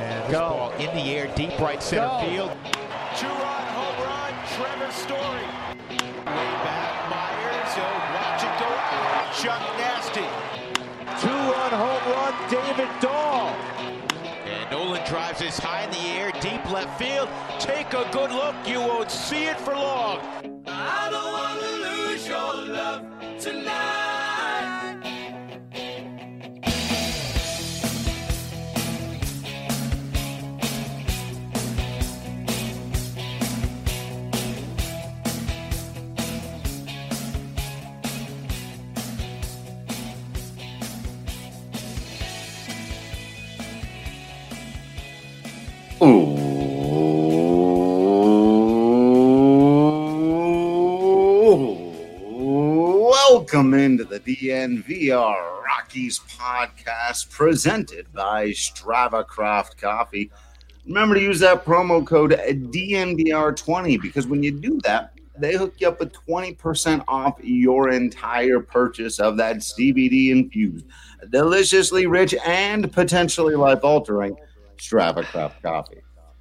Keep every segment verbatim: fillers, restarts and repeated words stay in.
And this Go. ball in the air, deep right center Go. field. Two-run home run, Trevor Story. Way back, Myers, so watch it go out. Chuck Nasty. Two-run home run, David Dahl. And Nolan drives this high in the air, deep left field. Take a good look, you won't see it for long. I don't want to lose your love tonight. Welcome into the D N V R Rockies podcast presented by Strava Craft Coffee. Remember to use that promo code D N V R twenty because when you do that, they hook you up with twenty percent off your entire purchase of that C B D-infused, deliciously rich, and potentially life-altering Strava Craft Coffee.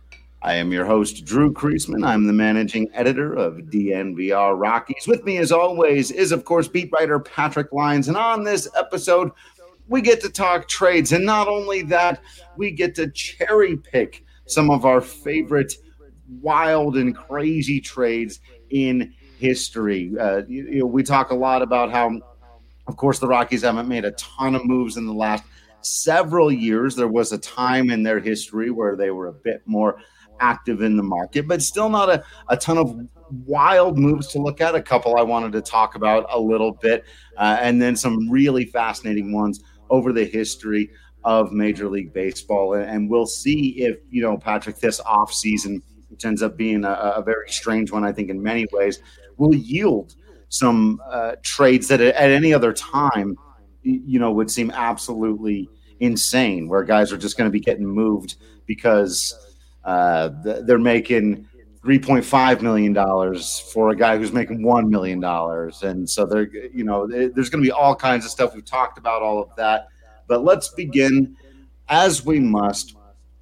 I am your host, Drew Kreisman. I'm the managing editor of D N V R Rockies. With me, as always, is, of course, beat writer Patrick Lyons. And on this episode, we get to talk trades. And not only that, we get to cherry pick some of our favorite wild and crazy trades in history. Uh, you, you know, we talk a lot about how, of course, the Rockies haven't made a ton of moves in the last several years. There was a time in their history where they were a bit more active in the market, but still not a, a ton of wild moves to look at. A couple I wanted to talk about a little bit, uh, and then some really fascinating ones over the history of Major League Baseball. And, and we'll see if, you know, Patrick, this offseason, which ends up being a, a very strange one, I think, in many ways, will yield some uh, trades that at any other time, you know, would seem absolutely insane, where guys are just going to be getting moved because uh, they're making three point five million dollars for a guy who's making one million dollars. And so there, you know, there's going to be all kinds of stuff. We've talked about all of that, but let's begin, as we must,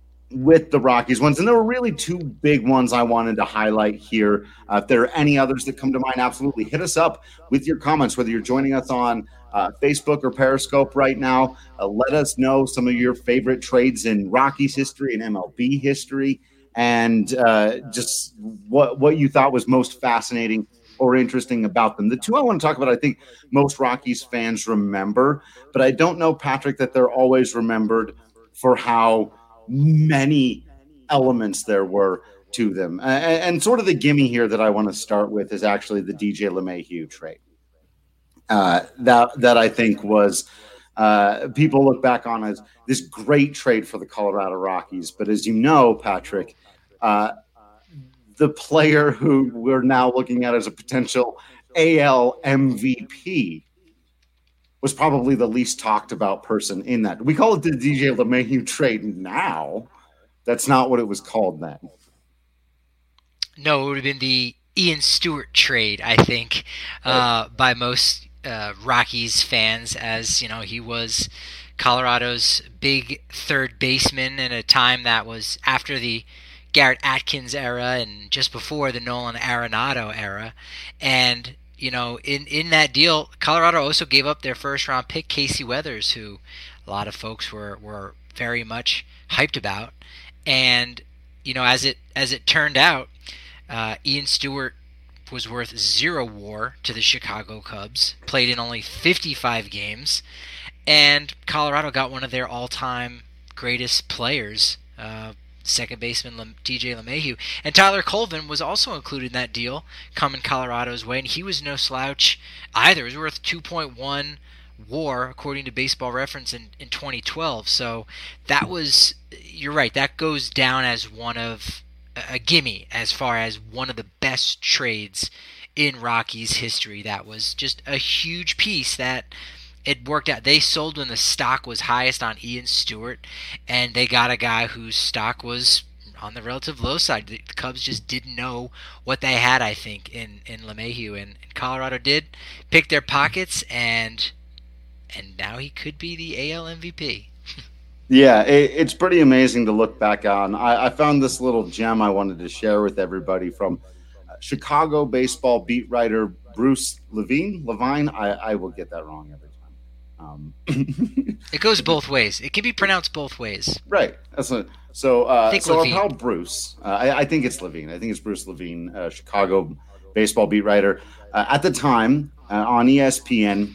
with the Rockies ones. And there were really two big ones I wanted to highlight here. Uh, if there are any others that come to mind, absolutely hit us up with your comments, whether you're joining us on uh, Facebook or Periscope right now. Uh, let us know some of your favorite trades in Rockies history and M L B history, and uh, just what, what you thought was most fascinating or interesting about them. The two I want to talk about, I think most Rockies fans remember, but I don't know, Patrick, that they're always remembered for how many elements there were to them. And, and sort of the gimme here that I want to start with is actually the D J LeMahieu trade. Uh, that that I think was uh, people look back on as this great trade for the Colorado Rockies. But as you know, Patrick, uh, the player who we're now looking at as a potential A L M V P was probably the least talked about person in that. We call it the D J LeMahieu trade now. That's not what it was called then. No, it would have been the Ian Stewart trade, I think, uh, by most uh, Rockies fans, as you know, he was Colorado's big third baseman in a time that was after the Garrett Atkins era and just before the Nolan Arenado era. And you know, in, in that deal, Colorado also gave up their first-round pick, Casey Weathers, who a lot of folks were, were very much hyped about. And, you know, as it as it turned out, uh, Ian Stewart was worth zero WAR to the Chicago Cubs, played in only fifty-five games, and Colorado got one of their all-time greatest players, uh, second baseman D J LeMahieu. And Tyler Colvin was also included in that deal coming Colorado's way, and he was no slouch either. He was worth two point one WAR, according to Baseball Reference, in, in twenty twelve. So that was, you're right, that goes down as one of, a gimme as far as one of the best trades in Rockies history. That was just a huge piece that it worked out. They sold when the stock was highest on Ian Stewart, and they got a guy whose stock was on the relative low side. The Cubs just didn't know what they had, I think, in, in LeMahieu, and, and Colorado did pick their pockets, and and now he could be the A L M V P. Yeah, it, it's pretty amazing to look back on. I, I found this little gem I wanted to share with everybody from uh, Chicago baseball beat writer Bruce Levine. Levine, I, I will get that wrong every time. Um, it goes both ways. It can be pronounced both ways. Right. That's what, so. Uh, so Levine. Our pal Bruce, uh, I, I think it's Levine. I think it's Bruce Levine, uh, Chicago baseball beat writer uh, at the time uh, on E S P N.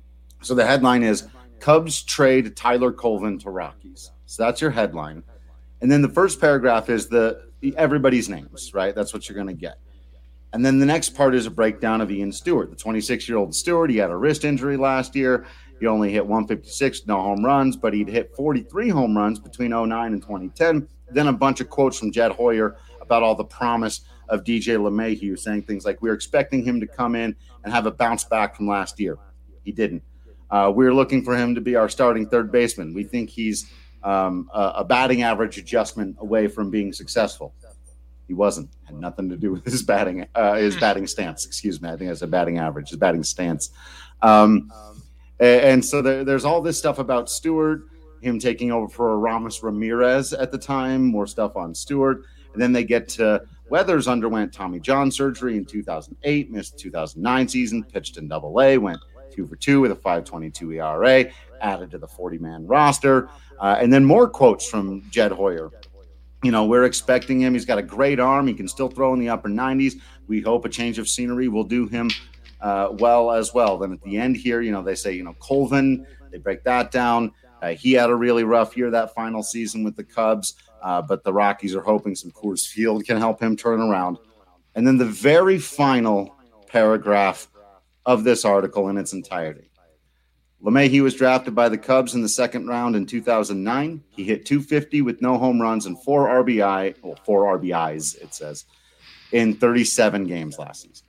So the headline is Cubs trade Tyler Colvin to Rockies. So that's your headline. And then the first paragraph is the everybody's names, right? That's what you're going to get. And then the next part is a breakdown of Ian Stewart, the twenty-six-year-old Stewart. He had a wrist injury last year. He only hit one fifty-six, no home runs, but he'd hit forty-three home runs between oh nine and twenty ten. Then a bunch of quotes from Jed Hoyer about all the promise of D J LeMahieu, saying things like, we were expecting him to come in and have a bounce back from last year. He didn't. Uh, we're looking for him to be our starting third baseman. We think he's um, a, a batting average adjustment away from being successful. He wasn't. Had nothing to do with his batting, uh, his batting stance. Excuse me. I think I said batting average. His batting stance. Um, and, and so there, there's all this stuff about Stewart, him taking over for Ramos Ramirez at the time. More stuff on Stewart, and then they get to Weathers underwent Tommy John surgery in two thousand eight, missed the two thousand nine season, pitched in Double A, went two for two with a five twenty-two E R A, added to the forty-man roster. Uh, and then more quotes from Jed Hoyer. You know, we're expecting him. He's got a great arm. He can still throw in the upper nineties. We hope a change of scenery will do him uh, well as well. Then at the end here, you know, they say, you know, Colvin, they break that down. Uh, he had a really rough year that final season with the Cubs, uh, but the Rockies are hoping some Coors Field can help him turn around. And then the very final paragraph of this article in its entirety. LeMahieu was drafted by the Cubs in the second round in two thousand nine. He hit two fifty with no home runs and four R B I, well, four R B Is, it says, in thirty-seven games last season.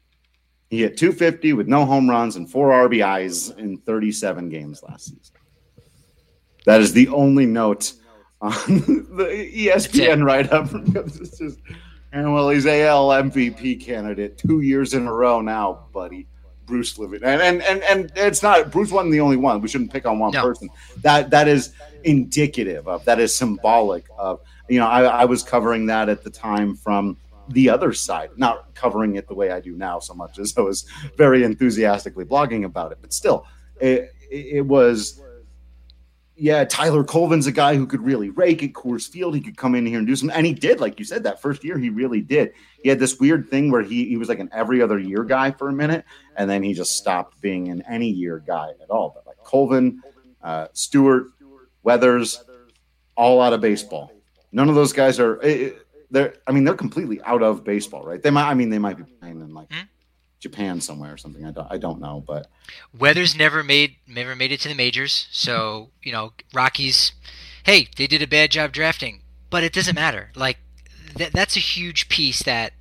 He hit two fifty with no home runs and four R B Is in thirty-seven games last season. That is the only note on the E S P N write-up. It's just, and well, he's A L M V P candidate two years in a row now, buddy. Bruce Levine. And, and and and it's not Bruce wasn't the only one. We shouldn't pick on one no. person. That that is indicative of, that is symbolic of, you know, I, I was covering that at the time from the other side, not covering it the way I do now so much as I was very enthusiastically blogging about it. But still, it, it was, yeah, Tyler Colvin's a guy who could really rake at Coors Field. He could come in here and do some, and he did, like you said, that first year he really did. He had this weird thing where he, he was like an every other year guy for a minute, and then he just stopped being an any year guy at all. But like Colvin, uh, Stewart, Weathers, all out of baseball. None of those guys are. They're. I mean, they're completely out of baseball, right? They might. I mean, they might be playing in like hmm? Japan somewhere or something. I don't. I don't know, but Weathers never made never made it to the majors. So you know, Rockies. Hey, they did a bad job drafting, but it doesn't matter. Like. That, that's a huge piece that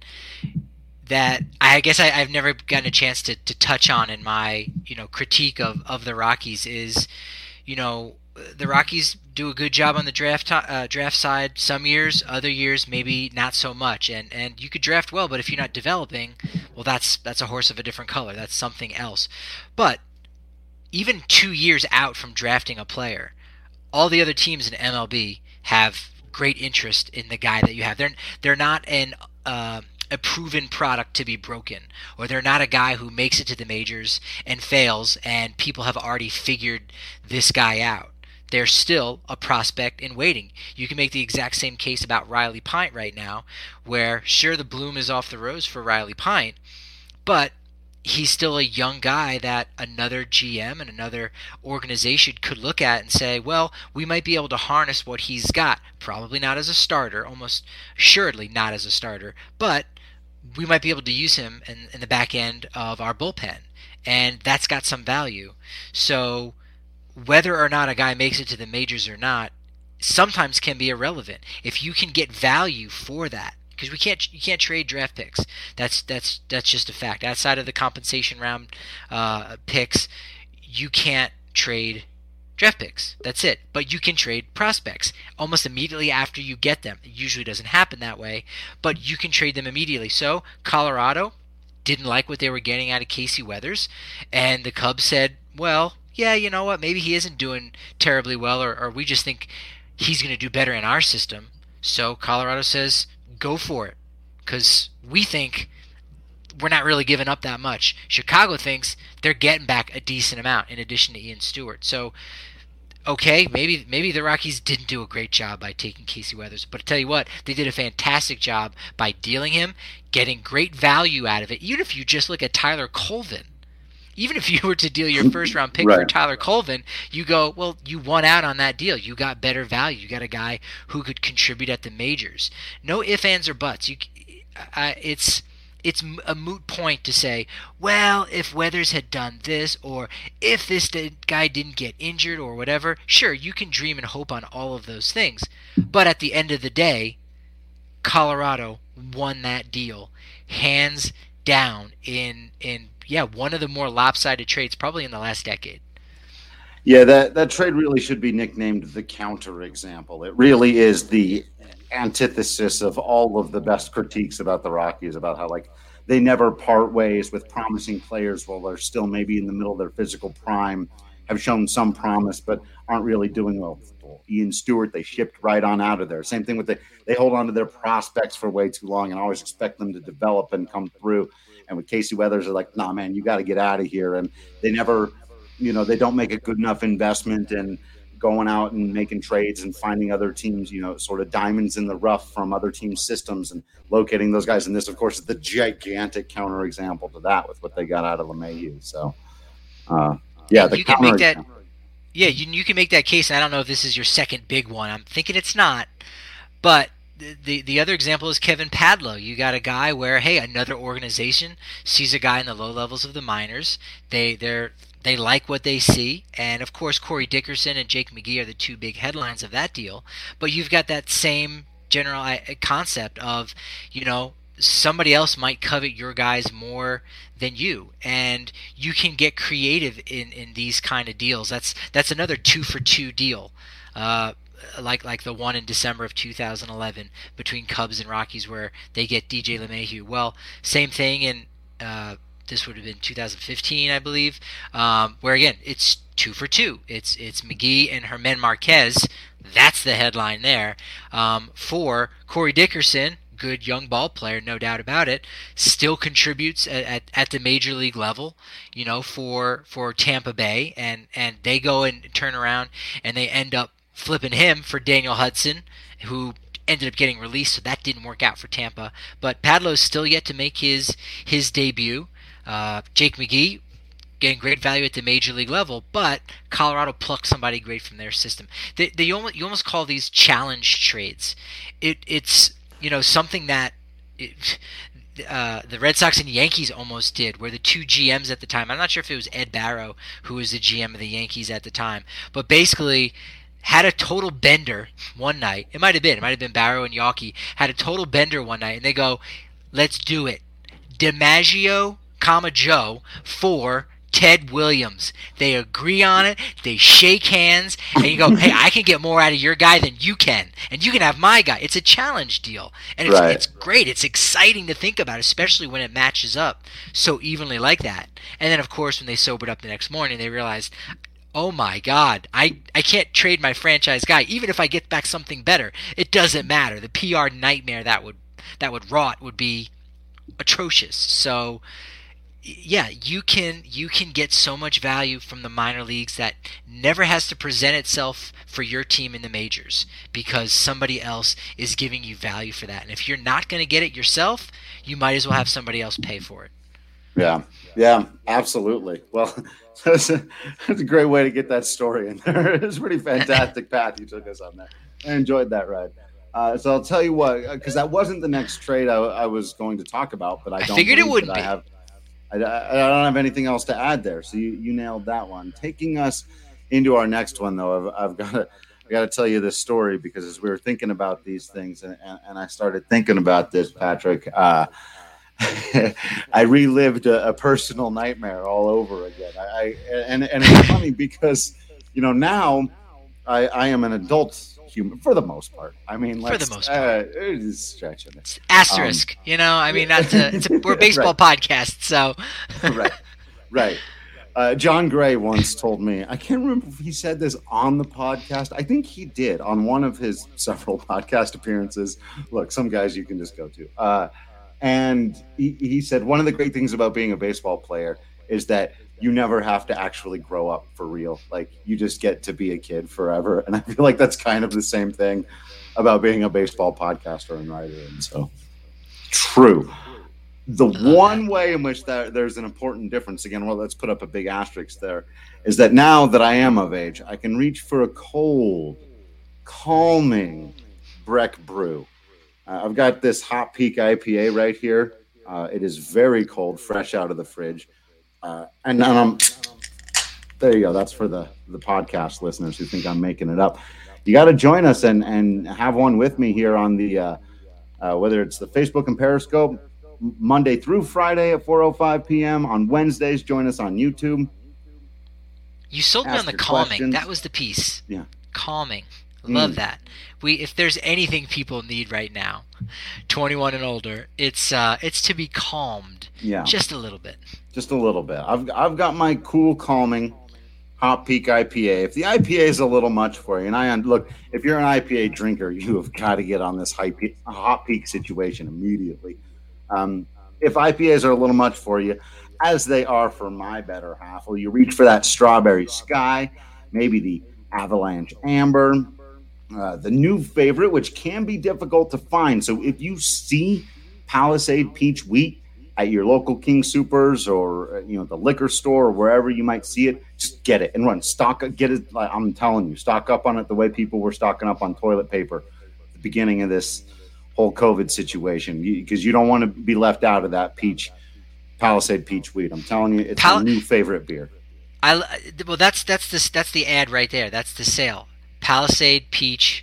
that I guess I, I've never gotten a chance to, to touch on in my you know critique of, of the Rockies is, you know, the Rockies do a good job on the draft uh, draft side some years, other years maybe not so much, and and you could draft well, but if you're not developing, well that's that's a horse of a different color. That's something else. But even two years out from drafting a player, all the other teams in M L B have great interest in the guy that you have. They're they're not an uh, a proven product to be broken, or they're not a guy who makes it to the majors and fails, and people have already figured this guy out. They're still a prospect in waiting. You can make the exact same case about Riley Pint right now, where sure the bloom is off the rose for Riley Pint, but he's still a young guy that another G M and another organization could look at and say, well, we might be able to harness what he's got. Probably not as a starter, almost assuredly not as a starter, but we might be able to use him in, in the back end of our bullpen, and that's got some value. So whether or not a guy makes it to the majors or not sometimes can be irrelevant. If you can get value for that, because we can't, you can't trade draft picks. That's that's that's just a fact. Outside of the compensation round uh, picks, you can't trade draft picks. That's it. But you can trade prospects almost immediately after you get them. It usually doesn't happen that way, but you can trade them immediately. So Colorado didn't like what they were getting out of Casey Weathers, and the Cubs said, well, yeah, you know what, maybe he isn't doing terribly well, or, or we just think he's going to do better in our system. So Colorado says, go for it, because we think we're not really giving up that much. Chicago thinks they're getting back a decent amount in addition to Ian Stewart. So, okay, maybe maybe the Rockies didn't do a great job by taking Casey Weathers, but I tell you what, they did a fantastic job by dealing him, getting great value out of it. Even if you just look at Tyler Colvin, even if you were to deal your first round pick right. for Tyler Colvin, you go, well, you won out on that deal. You got better value. You got a guy who could contribute at the majors. No ifs, ands, or buts. You, uh, it's it's a moot point to say, well, if Weathers had done this, or if this guy didn't get injured or whatever. Sure, you can dream and hope on all of those things. But at the end of the day, Colorado won that deal hands down in in yeah, one of the more lopsided trades probably in the last decade. Yeah, that, that trade really should be nicknamed the counter example. It really is the antithesis of all of the best critiques about the Rockies, about how like they never part ways with promising players while they're still maybe in the middle of their physical prime, have shown some promise, but aren't really doing well. Ian Stewart, they shipped right on out of there. Same thing with the, they hold on to their prospects for way too long and always expect them to develop and come through. And with Casey Weathers, they're like, nah, man, you got to get out of here. And they never, you know, they don't make a good enough investment in going out and making trades and finding other teams, you know, sort of diamonds in the rough from other teams' systems and locating those guys. And this, of course, is the gigantic counterexample to that with what they got out of LeMahieu. So, uh, yeah, the you can make that. example. Yeah, you you can make that case. And I don't know if this is your second big one. I'm thinking it's not, but. The the other example is Kevin Padlo. You got a guy where, hey, another organization sees a guy in the low levels of the minors. They they're they like what they see, and of course Corey Dickerson and Jake McGee are the two big headlines of that deal. But you've got that same general concept of, you know, somebody else might covet your guys more than you, and you can get creative in, in these kind of deals. That's that's another two for two deal. Uh, like like the one in December of two thousand eleven between Cubs and Rockies where they get D J LeMahieu. Well, same thing in uh, this would have been two thousand fifteen, I believe, um, where again it's two for two. It's it's McGee and Germán Marquez. That's the headline there. Um, for Corey Dickerson, good young ball player, no doubt about it, still contributes at, at, at the major league level, you know, for for Tampa Bay, and, and they go and turn around and they end up flipping him for Daniel Hudson, who ended up getting released, so that didn't work out for Tampa. But Padlo's still yet to make his his debut. Uh, Jake McGee getting great value at the major league level, but Colorado plucked somebody great from their system. They, they almost, you almost call these challenge trades. It it's you know something that it, uh, the Red Sox and Yankees almost did, where the two G Ms at the time, I'm not sure if it was Ed Barrow who was the G M of the Yankees at the time, but basically had a total bender one night. It might have been. It might have been Barrow and Yawkey. Had a total bender one night, and they go, let's do it. DiMaggio, comma Joe, for Ted Williams. They agree on it. They shake hands, and you go, hey, I can get more out of your guy than you can, and you can have my guy. It's a challenge deal, and it's, right. it's great. It's exciting to think about, especially when it matches up so evenly like that. And then, of course, when they sobered up the next morning, they realized, oh my God, I, I can't trade my franchise guy. Even if I get back something better, it doesn't matter. The P R nightmare that would that would wrought would be atrocious. So yeah, you can you can get so much value from the minor leagues that never has to present itself for your team in the majors, because somebody else is giving you value for that. And if you're not going to get it yourself, you might as well have somebody else pay for it. Yeah, yeah, absolutely. Well, that's a, that's a great way to get that story in there. It was a pretty fantastic path you took us on that. I enjoyed that ride. Uh, so I'll tell you what, because that wasn't the next trade I, I was going to talk about, but I, I don't figured it wouldn't I be. Have, I, I don't have anything else to add there. So you, you nailed that one. Taking us into our next one, though, I've, I've got to I got to tell you this story, because as we were thinking about these things, and, and, and I started thinking about this, Patrick, uh, I relived a, a personal nightmare all over again. I, I and and it's funny because, you know, now I, I am an adult human for the most part. I mean, for the most part, uh, it is stretching it. It's asterisk, um, you know. I mean, that's a, it's a we're a baseball right. podcast, so right, right. Uh, John Gray once told me, I can't remember if he said this on the podcast. I think he did on one of his several podcast appearances. Look, some guys you can just go to. Uh, and he, he said, one of the great things about being a baseball player is that you never have to actually grow up for real. Like, you just get to be a kid forever. And I feel like that's kind of the same thing about being a baseball podcaster and writer. And so, true. The one way in which that there's an important difference, again, well, let's put up a big asterisk there, is that now that I am of age, I can reach for a cold, calming Breck brew. Uh, I've got this Hot Peak I P A right here. Uh, it is very cold, fresh out of the fridge. Uh, and um, there you go. That's for the, the podcast listeners who think I'm making it up. You got to join us and, and have one with me here on the, uh, uh, whether it's the Facebook and Periscope, Monday through Friday at four oh five p.m. On Wednesdays, join us on YouTube. You sold me Ask on the your calming. questions. That was the piece. Yeah. Calming. Love Mm. that. We if there's anything people need right now, twenty-one and older, it's uh it's to be calmed. Yeah. Just a little bit. Just a little bit. I've I've got my cool, calming Hot Peak I P A. If the I P A is a little much for you, and I look, if you're an I P A drinker, you have got to get on this high peak, Hot Peak situation immediately. Um, if I P As are a little much for you, as they are for my better half, well, you reach for that Strawberry Sky, maybe the Avalanche Amber, uh, the new favorite, which can be difficult to find. So if you see Palisade Peach Wheat at your local King Supers or, you know, the liquor store or wherever you might see it, just get it and run. Stock it, get it. Like I'm telling you, stock up on it the way people were stocking up on toilet paper at the beginning of this whole COVID situation, because you, you don't want to be left out of that peach, Palisade Peach Wheat. I'm telling you, it's Pal- a new favorite beer. I well, that's that's the that's the ad right there. That's the sale. Palisade Peach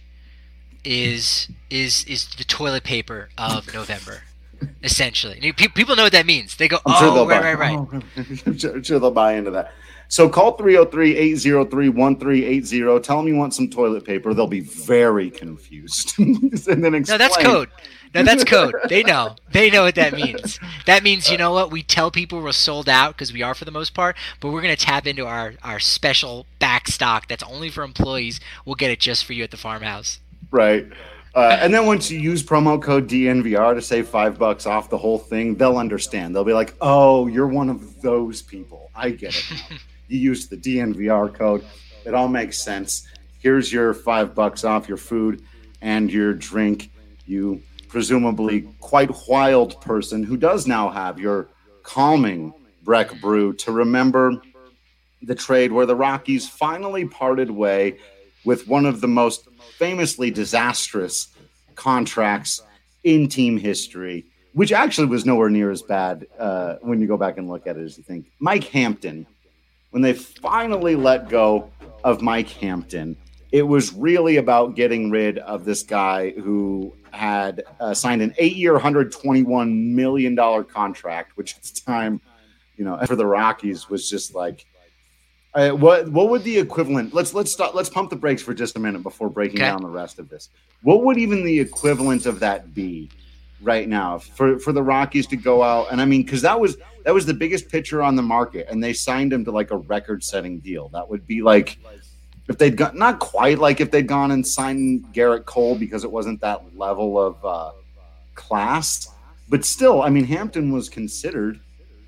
is is is the toilet paper of November, essentially. Pe- People know what that means. They go, I'm sure oh, they'll right, buy, right, right. oh, I'm sure, sure they'll buy into that. So call three oh three, eight oh three, one three eight oh. Tell them you want some toilet paper. They'll be very confused. and then explain. No, that's code. No, that's code. They know. They know what that means. That means, you know what? We tell people we're sold out because we are for the most part, but we're going to tap into our, our special back stock that's only for employees. We'll get it just for you at the farmhouse. Right. Uh, and then once you use promo code D N V R to save five bucks off the whole thing, they'll understand. They'll be like, oh, you're one of those people. I get it now. You use the D N V R code. It all makes sense. Here's your five bucks off your food and your drink. You presumably quite wild person who does now have your calming Breck brew to remember the trade where the Rockies finally parted way with one of the most famously disastrous contracts in team history, which actually was nowhere near as bad uh, when you go back and look at it as you think. Mike Hampton, when they finally let go of Mike Hampton, it was really about getting rid of this guy who had uh, signed an eight-year, one hundred twenty-one million dollars contract, which at the time, you know, for the Rockies was just like, uh, what what would the equivalent? Let's let's stop. Let's pump the brakes for just a minute before breaking Okay. down the rest of this. What would even the equivalent of that be right now for for the Rockies to go out? And I mean, because that was that was the biggest pitcher on the market, and they signed him to like a record-setting deal. That would be like, if they'd got, not quite like if they'd gone and signed Garrett Cole, because it wasn't that level of uh, class, but still, I mean, Hampton was considered,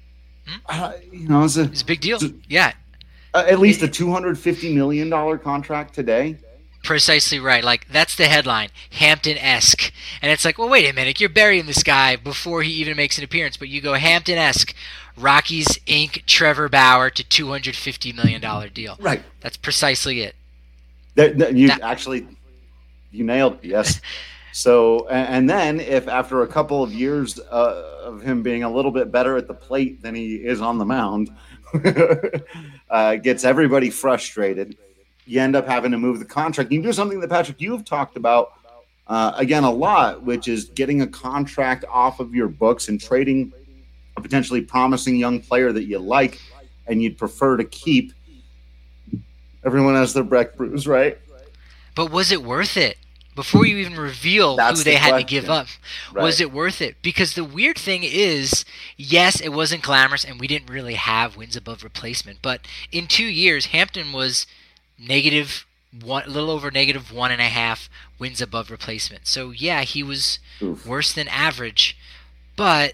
uh, you know, as a, It's a big deal. Yeah, uh, at least a two hundred fifty million dollars contract today. precisely right. Like, that's the headline, Hampton-esque. And it's like, well, wait a minute. You're burying this guy before he even makes an appearance. But you go Hampton-esque, Rockies Incorporated, Trevor Bauer to two hundred fifty million dollars deal. Right. That's precisely it. That, that- you That- actually, you nailed it, yes. So, and, and then if after a couple of years uh, of him being a little bit better at the plate than he is on the mound, uh, gets everybody frustrated, you end up having to move the contract. You can do something that, Patrick, you've talked about, uh, again, a lot, which is getting a contract off of your books and trading a potentially promising young player that you like and you'd prefer to keep. Everyone has their Breck brews, right? But was it worth it? before you even reveal That's who they the had question. to give up. Right. Was it worth it? Because the weird thing is, yes, it wasn't glamorous, and we didn't really have wins above replacement. But in two years, Hampton was negative one, a little over negative one and a half wins above replacement. So yeah, he was Oof. worse than average. But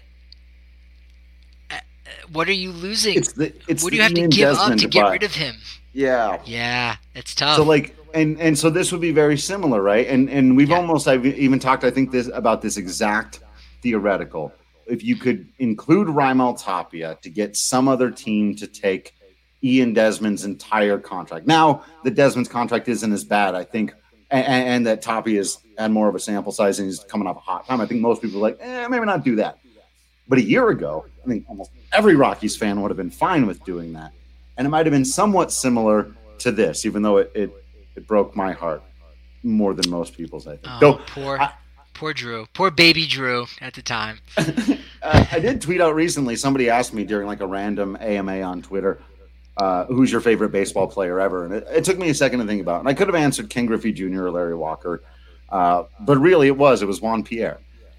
uh, what are you losing? It's the, it's what the do you have Ian to give Desmond up to get but- rid of him? Yeah. Yeah, it's tough. So like, and and so this would be very similar, right? And and we've Yeah. almost I've even talked, I think, this about this exact theoretical. If you could include Raimel Tapia to get some other team to take Ian Desmond's entire contract. Now the Desmond's contract isn't as bad, I think, and, and that Tapia's had more of a sample size and he's coming off a hot time. I think most people are like, eh, maybe not do that. But a year ago, I think almost every Rockies fan would have been fine with doing that. And it might have been somewhat similar to this, even though it, it, it broke my heart more than most people's, I think. Oh, So, poor, I- poor Drew. Poor baby Drew at the time. uh, I did tweet out recently, somebody asked me during like a random A M A on Twitter, uh, who's your favorite baseball player ever? And it, it took me a second to think about it. And I could have answered Ken Griffey Junior or Larry Walker, uh, but really it was. It was Juan Pierre.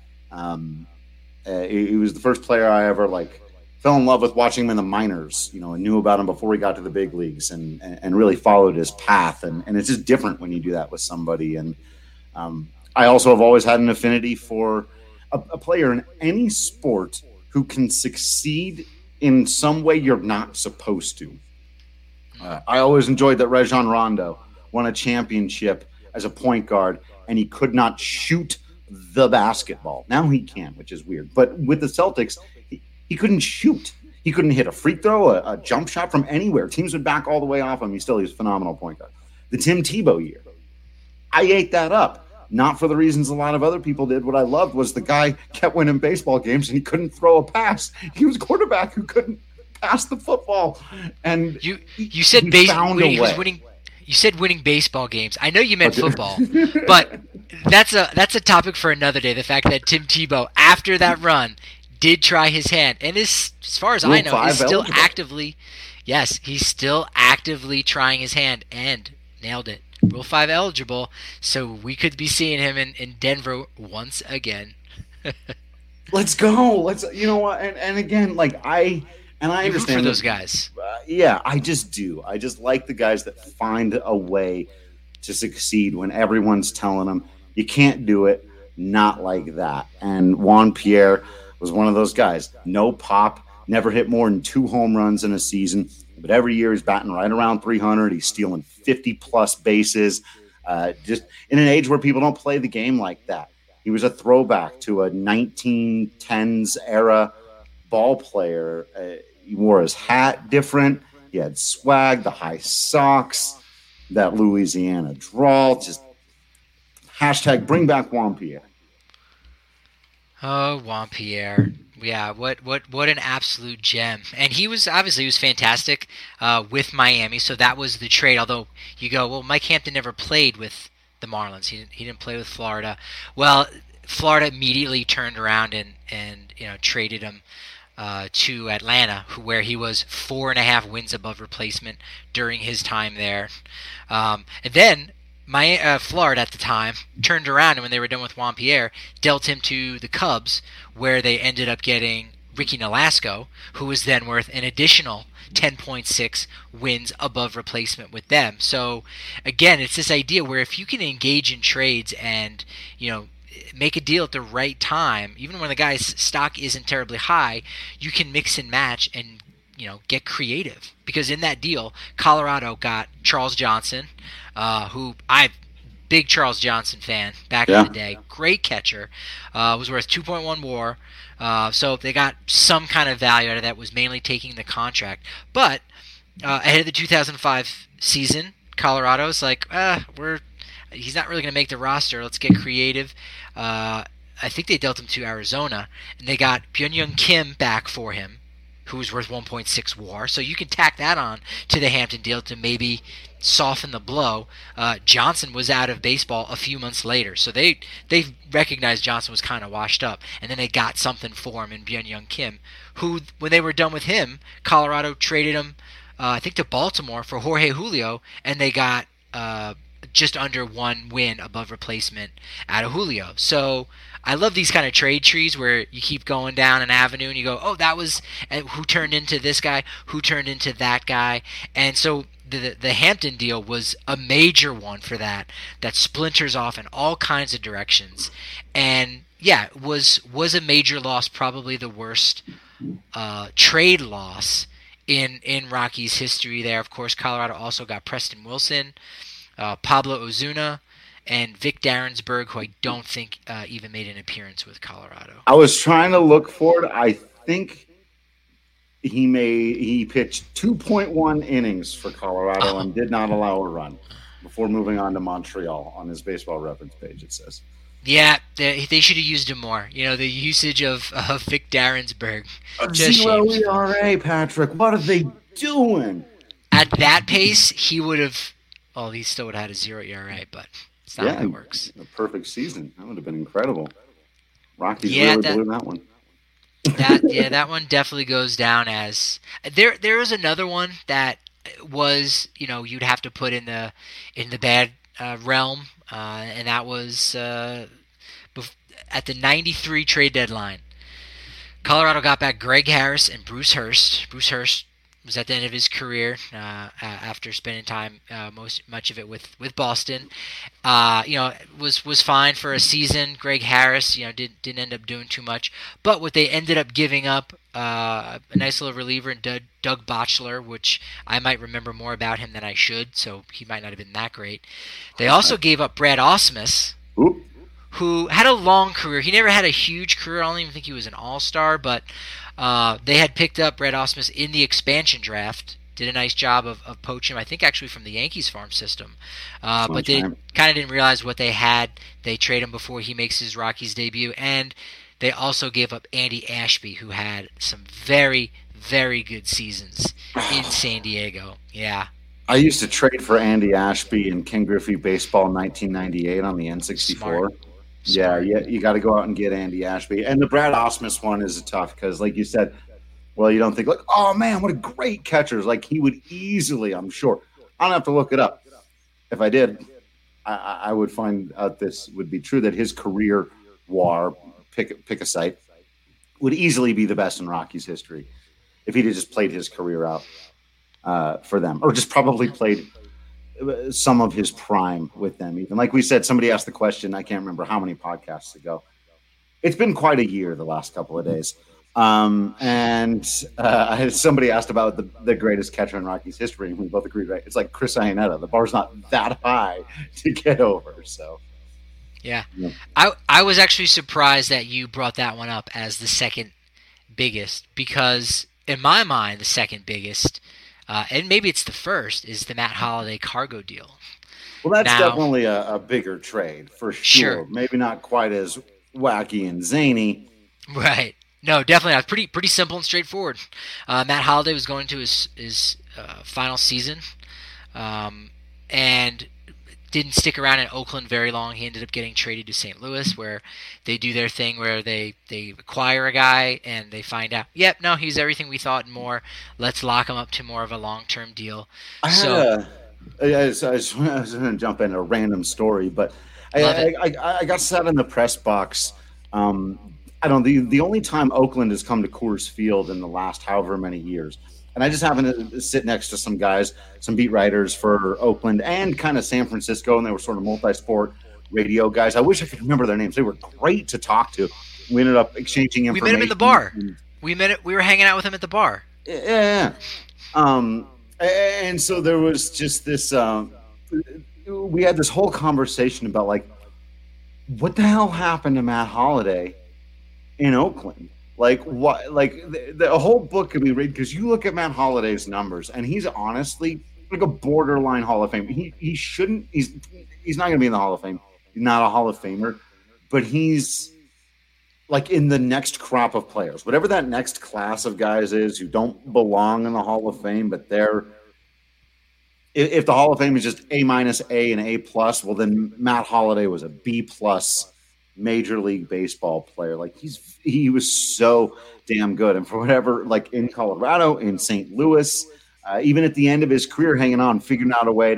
Um, uh, he, he was the first player I ever like fell in love with watching him in the minors, you know, and knew about him before he got to the big leagues and, and, and really followed his path. And, and it's just different when you do that with somebody. And um, I also have always had an affinity for a, a player in any sport who can succeed in some way you're not supposed to. Uh, I always enjoyed that Rajon Rondo won a championship as a point guard and he could not shoot the basketball. Now he can, which is weird. But with the Celtics, he, he couldn't shoot. He couldn't hit a free throw, a, a jump shot from anywhere. Teams would back all the way off him. He still, he was a phenomenal point guard. The Tim Tebow year, I ate that up. Not for the reasons a lot of other people did. What I loved was the guy kept winning baseball games and he couldn't throw a pass. He was a quarterback who couldn't pass the football. And You you said he base, found a winning, he was way. winning. You said winning baseball games. I know you meant Okay. football, but that's a that's a topic for another day. The fact that Tim Tebow, after that run, did try his hand, and is, as far as I Rule know, five is still eligible. actively. Yes, he's still actively trying his hand and nailed it. Rule five eligible, so we could be seeing him in, in Denver once again. Let's go. Let's, you know what? And, and again, like I, and I You root understand for those that- guys. Uh, yeah, I just do. I just like the guys that find a way to succeed when everyone's telling them you can't do it. Not like that. And Juan Pierre was one of those guys. No pop, never hit more than two home runs in a season. But every year he's batting right around three hundred. He's stealing fifty plus bases. Uh, just in an age where people don't play the game like that. He was a throwback to a nineteen tens era ball player. Uh, he wore his hat different. He had swag, the high socks, that Louisiana drawl. Just hashtag bring back Juan Pierre. Oh, Juan Pierre. Yeah, what what what an absolute gem. And he was obviously he was fantastic uh, with Miami, so that was the trade. Although you go, well, Mike Hampton never played with the Marlins. He didn't, he didn't play with Florida. Well, Florida immediately turned around and, and you know traded him uh, to Atlanta, who, where he was four and a half wins above replacement during his time there. Um, and then my uh, Florida at the time turned around, and when they were done with Juan Pierre, dealt him to the Cubs, where they ended up getting Ricky Nolasco, who was then worth an additional ten point six wins above replacement with them. So again, it's this idea where if you can engage in trades and you know make a deal at the right time, even when the guy's stock isn't terribly high, you can mix and match and you know get creative. Because in that deal, Colorado got Charles Johnson, uh, who I big Charles Johnson fan back Yeah. in the day, great catcher, uh, was worth two point one WAR. Uh, so they got some kind of value out of that. Was mainly taking the contract, but uh, ahead of the two thousand five season, Colorado's like, uh, we're he's not really going to make the roster. Let's get creative. Uh, I think they dealt him to Arizona, and they got Byung-Hyun Kim back for him, who was worth one point six WAR. So you can tack that on to the Hampton deal to maybe soften the blow. Uh, Johnson was out of baseball a few months later, so they they recognized Johnson was kind of washed up, and then they got something for him in Byung-Hyun Kim, who, when they were done with him, Colorado traded him, uh, I think, to Baltimore for Jorge Julio, and they got uh, just under one win above replacement out of Julio. So I love these kind of trade trees where you keep going down an avenue and you go, oh, that was who turned into this guy, who turned into that guy. And so the the Hampton deal was a major one for that, that splinters off in all kinds of directions. And yeah, was was a major loss, probably the worst uh, trade loss in, in Rockies history there. Of course, Colorado also got Preston Wilson, uh, Pablo Ozuna, and Vic Darrensburg, who I don't think uh, even made an appearance with Colorado. I was trying to look for it. I think he made he pitched two point one innings for Colorado oh. and did not allow a run before moving on to Montreal. On his Baseball Reference page, it says. Yeah, they, they should have used him more. You know, the usage of, of Vic Darrensburg. Zero E R A, Patrick. What are they doing? At that pace, he would have. Well, he still would have had a zero E R A, but. That's not yeah, how it works. A perfect season. That would have been incredible. Rockies yeah, really that, blew that one. that yeah, that one definitely goes down as there. There is another one that was, you know, you'd have to put in the in the bad uh, realm, uh, and that was uh, bef- at the ninety-three trade deadline. Colorado got back Greg Harris and Bruce Hurst. Bruce Hurst was at the end of his career uh, after spending time, uh, most much of it with, with Boston. Uh, you know, was was fine for a season. Greg Harris, you know, did, didn't end up doing too much. But what they ended up giving up, uh, a nice little reliever in Doug, Doug Botchler, which I might remember more about him than I should, so he might not have been that great. They also gave up Brad Ausmus, Oop. who had a long career. He never had a huge career. I don't even think he was an all-star, but Uh, they had picked up Brad Ausmus in the expansion draft, did a nice job of, of poaching him, I think actually from the Yankees farm system. Uh, but they kind of didn't realize what they had. They trade him before he makes his Rockies debut. And they also gave up Andy Ashby, who had some very, very good seasons in San Diego. Yeah. I used to trade for Andy Ashby in Ken Griffey Baseball nineteen ninety-eight on the N sixty-four. Smart. Yeah, yeah, you got to go out and get Andy Ashby. And the Brad Ausmus one is tough because, like you said, well, you don't think, like, oh, man, what a great catcher. Like, he would easily, I'm sure. I don't have to look it up. If I did, I, I would find out this would be true, that his career war, pick, pick a site, would easily be the best in Rockies history if he'd have just played his career out uh, for them, or just probably played some of his prime with them. Even like we said, somebody asked the question, I can't remember how many podcasts ago. It's been quite a year the last couple of days. Um, and uh, somebody asked about the, the greatest catcher in Rockies history, and we both agreed, right? It's like Chris Iannetta. The bar's not that high to get over. So, yeah. yeah. I I was actually surprised that you brought that one up as the second biggest, because in my mind, the second biggest, Uh, and maybe it's the first, is the Matt Holliday cargo deal. Well, that's now, definitely a, a bigger trade, for sure. sure. Maybe not quite as wacky and zany. Right. No, definitely not. Pretty pretty simple and straightforward. Uh, Matt Holliday was going to his, his uh, final season um, and didn't stick around in Oakland very long. He ended up getting traded to Saint Louis, where they do their thing where they, they acquire a guy and they find out, yep, no, he's everything we thought and more. Let's lock him up to more of a long-term deal. I so, had a, I, just, I, just, I was going to jump in a random story, but I, I, I, I got sat in the press box. Um, I don't the the only time Oakland has come to Coors Field in the last however many years. And I just happened to sit next to some guys, some beat writers for Oakland and kind of San Francisco, and they were sort of multi-sport radio guys. I wish I could remember their names. They were great to talk to. We ended up exchanging information. We met him in the bar. We met it. We were hanging out with him at the bar. Yeah. Um, and so there was just this um, – we had this whole conversation about, like, what the hell happened to Matt Holliday in Oakland? Like what? Like the, the whole book can be read, because you look at Matt Holliday's numbers, and he's honestly like a borderline Hall of Fame. He he shouldn't. He's he's not going to be in the Hall of Fame. He's not a Hall of Famer, but he's like in the next crop of players, whatever that next class of guys is who don't belong in the Hall of Fame, but they're. If, if the Hall of Fame is just A minus, A, and A plus, well then Matt Holliday was a B plus. Major League Baseball player. Like he's he was so damn good, and for whatever, like in Colorado, in Saint Louis, uh, even at the end of his career, hanging on, figuring out a way to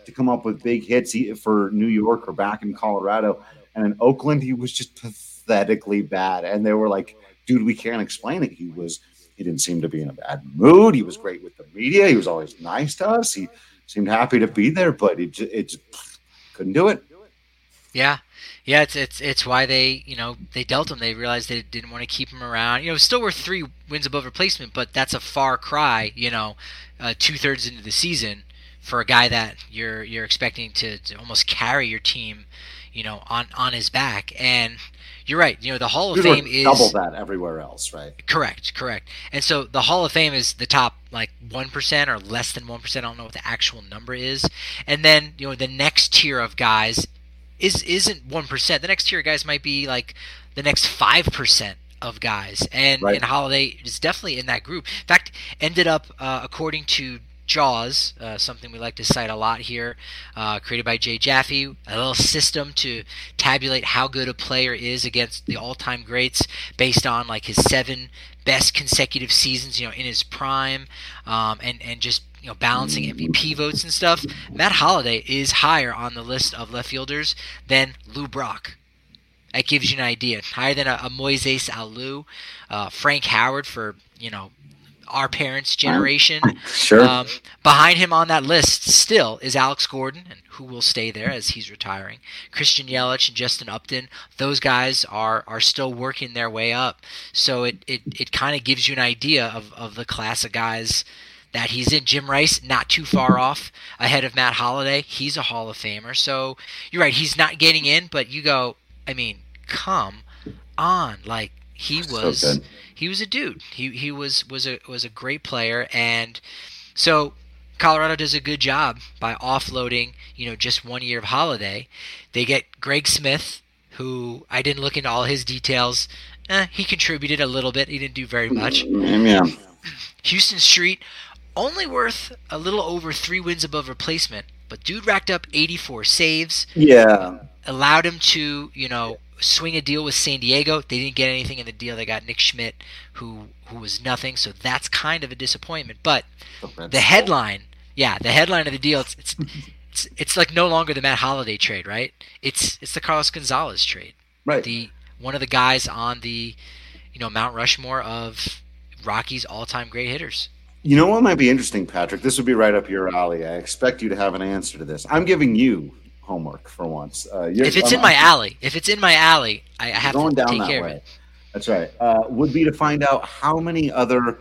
to come up with big hits for New York or back in Colorado. And in Oakland, he was just pathetically bad. And they were like, dude, we can't explain it. He was he didn't seem to be in a bad mood. He was great with the media. He was always nice to us. He seemed happy to be there, but it just, it just couldn't do it. Yeah. Yeah, it's it's it's why they, you know, they dealt him. They realized they didn't want to keep him around. You know, still worth three wins above replacement, but that's a far cry, you know, uh, two-thirds into the season for a guy that you're you're expecting to, to almost carry your team, you know, on, on his back. And you're right. You know, the Hall of You're Fame is double that everywhere else, right? Correct, correct. And so the Hall of Fame is the top like one percent or less than one percent. I don't know what the actual number is. And then, you know, the next tier of guys is isn't one percent. The next tier of guys might be like the next five percent of guys. And Right. and Holiday is definitely in that group. In fact, ended up uh, according to Jaws, uh, something we like to cite a lot here, uh, created by Jay Jaffe, a little system to tabulate how good a player is against the all-time greats based on like his seven best consecutive seasons, you know, in his prime, um, and and just you know balancing M V P votes and stuff. Matt Holliday is higher on the list of left fielders than Lou Brock. That gives you an idea. Higher than a, a Moises Alou, uh, Frank Howard for you know. our parents' generation. Sure. Um, behind him on that list still is Alex Gordon, and who will stay there as he's retiring. Christian Yelich and Justin Upton, those guys are are still working their way up. So it, it, it kind of gives you an idea of, of the class of guys that he's in. Jim Rice, not too far off ahead of Matt Holliday. He's a Hall of Famer. So you're right, he's not getting in, but you go, I mean, come on. Like, he was... So good. He was a dude. He he was was a was a great player, and so Colorado does a good job by offloading, you know, just one year of Holiday. They get Greg Smith, who I didn't look into all his details. Eh, he contributed a little bit. He didn't do very much. Yeah. Houston Street, only worth a little over three wins above replacement, but dude racked up eighty-four saves. Yeah. Allowed him to, you know, swing a deal with San Diego. They didn't get anything in the deal. They got Nick Schmidt, who who was nothing. So that's kind of a disappointment. But the headline, yeah, the headline of the deal, it's it's it's, it's like no longer the Matt Holliday trade, right? It's it's the Carlos Gonzalez trade. Right. The one of the guys on the, you know, Mount Rushmore of Rockies' all-time great hitters. You know what might be interesting, Patrick? This would be right up your alley. I expect you to have an answer to this. I'm giving you homework for once. Uh, If it's in my alley, if it's in my alley, I, I have going to down take that care way. of it. That's right. Uh, would be to find out how many other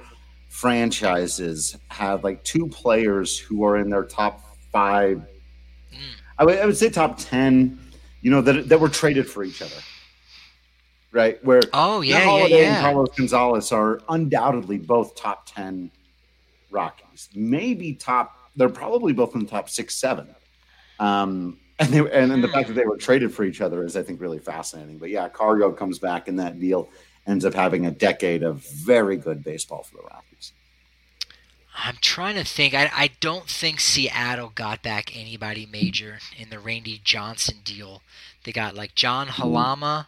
franchises have like two players who are in their top five. Mm. I would, I would say top ten. You know that that were traded for each other, right? Where Oh yeah, Matt yeah, Holliday and yeah. Carlos Gonzalez are undoubtedly both top ten Rockies. Maybe top. They're probably both in the top six, seven. Um, And they, and, and the fact that they were traded for each other is, I think, really fascinating. But yeah, Cargo comes back in that deal, ends up having a decade of very good baseball for the Rockies. I'm trying to think. I, I don't think Seattle got back anybody major in the Randy Johnson deal. They got like John Halama,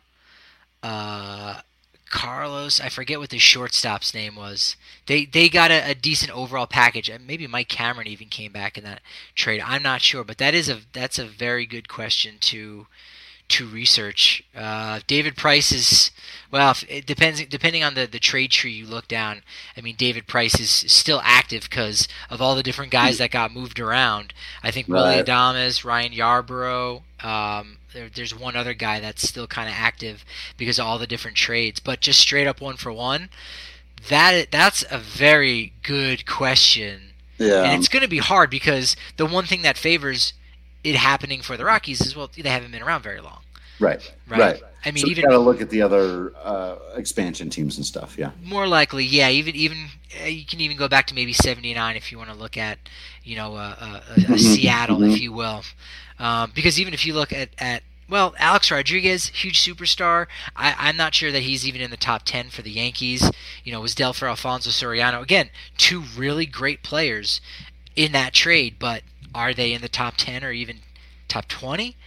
uh, Carlos. I forget what the shortstop's name was. They they got a, a decent overall package. And maybe Mike Cameron even came back in that trade. I'm not sure, but that is a that's a very good question to to research. Uh, David Price is well. If, it depends depending on the, the trade tree you look down. I mean, David Price is still active because of all the different guys that got moved around. I think Willie Right. Adames, Ryan Yarborough. Um, there, there's one other guy that's still kind of active because of all the different trades. But just straight up one for one, that that's a very good question. Yeah. And it's going to be hard because the one thing that favors it happening for the Rockies is, well, they haven't been around very long. Right. Right. Right. I mean, so even got to look at the other uh, expansion teams and stuff. Yeah. more likely, yeah. Even even uh, you can even go back to maybe seventy-nine if you want to look at, you know, uh, uh, a, a Mhm, Seattle, mhm. if you will, um, because even if you look at, at well, Alex Rodriguez, huge superstar. I, I'm not sure that he's even in the top ten for the Yankees. You know, was Delfer Alfonso Soriano again? Two really great players in that trade, but are they in the top ten or even top twenty?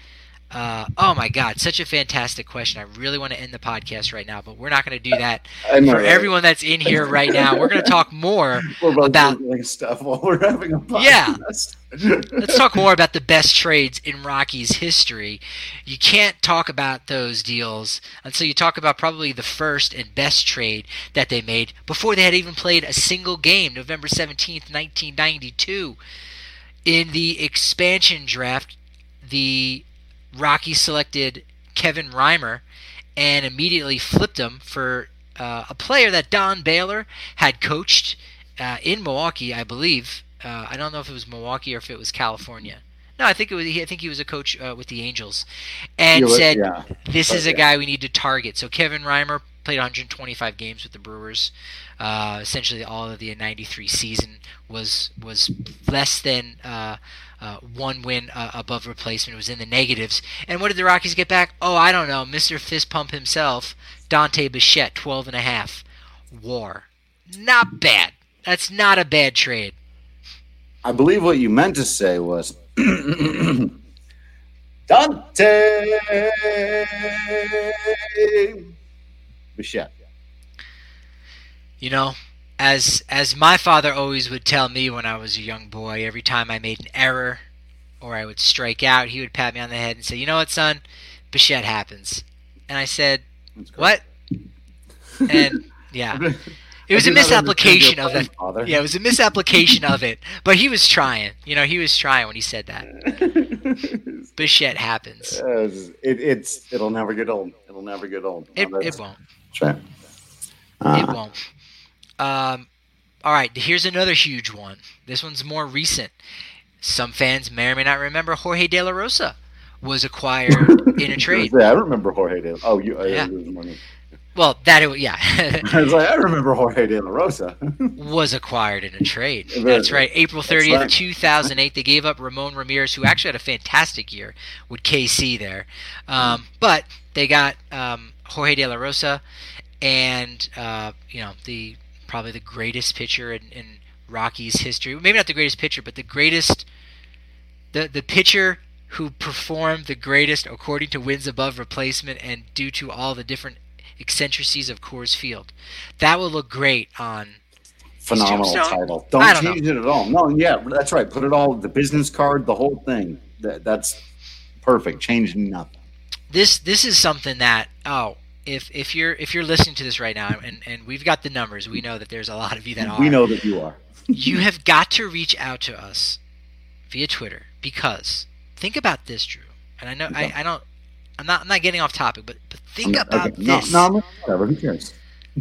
Uh, oh my God, such a fantastic question. I really want to end the podcast right now, but we're not going to do that I know, for right? everyone that's in here right now. We're going to talk more We're both about doing stuff while we're having a podcast. Yeah. Let's talk more about the best trades in Rockies history. You can't talk about those deals until you talk about probably the first and best trade that they made before they had even played a single game, November seventeenth, nineteen ninety-two. In the expansion draft, the Rockies selected Kevin Reimer and immediately flipped him for uh, a player that Don Baylor had coached uh, in Milwaukee, I believe. Uh, I don't know if it was Milwaukee or if it was California. No, I think it was. I think he was a coach uh, with the Angels, and Yeah, said, yeah. "This is a Yeah. guy we need to target." So Kevin Reimer played one hundred twenty-five games with the Brewers. Uh, essentially, all of the ninety-three season was was less than uh, uh, one win uh, above replacement. It was in the negatives. And what did the Rockies get back? Oh, I don't know. Mister Fist Pump himself, Dante Bichette, twelve and a half. War. Not bad. That's not a bad trade. I believe what you meant to say was Dante Bichette. You know, as as my father always would tell me when I was a young boy, every time I made an error or I would strike out, he would pat me on the head and say, "You know what, son? Bichette happens." And I said, "What?" And yeah. It was I a do not misapplication understand of your that. plan, Father. Yeah, it was a misapplication of it. But he was trying. You know, he was trying when he said that. Bichette happens. Uh, it, it's it'll never get old. It'll never get old. It, No, it that's- won't. that's right. It Uh, won't. Um, all right, here's another huge one. This one's more recent. Some fans may or may not remember Jorge De La Rosa was acquired in a trade. Yeah, I remember Jorge De. Oh, you. Yeah. Yeah. Well, that yeah. I was like, I remember Jorge De La Rosa. was acquired in a trade. Very That's good. right. April thirtieth, right. two thousand eight, they gave up Ramon Ramirez, who actually had a fantastic year with K C there. Um, but they got um, Jorge De La Rosa and, uh, you know, the probably the greatest pitcher in, in Rockies history. Maybe not the greatest pitcher, but the greatest, the, the pitcher who performed the greatest according to wins above replacement and due to all the different eccentricities of Coors Field. That will look great on Phenomenal Tombstone? title. Don't, I don't change it at all. No, yeah, that's right. Put it all, the business card, the whole thing. That, that's perfect. Change nothing. this this is something that oh if if you're if you're listening to this right now and and we've got the numbers, we know that there's a lot of you that are. We know that you are. You have got to reach out to us via Twitter because think about this, Drew. And I know I, I don't I'm not I'm not getting off topic, but but think Okay. about No, this no, no, whatever. Who cares?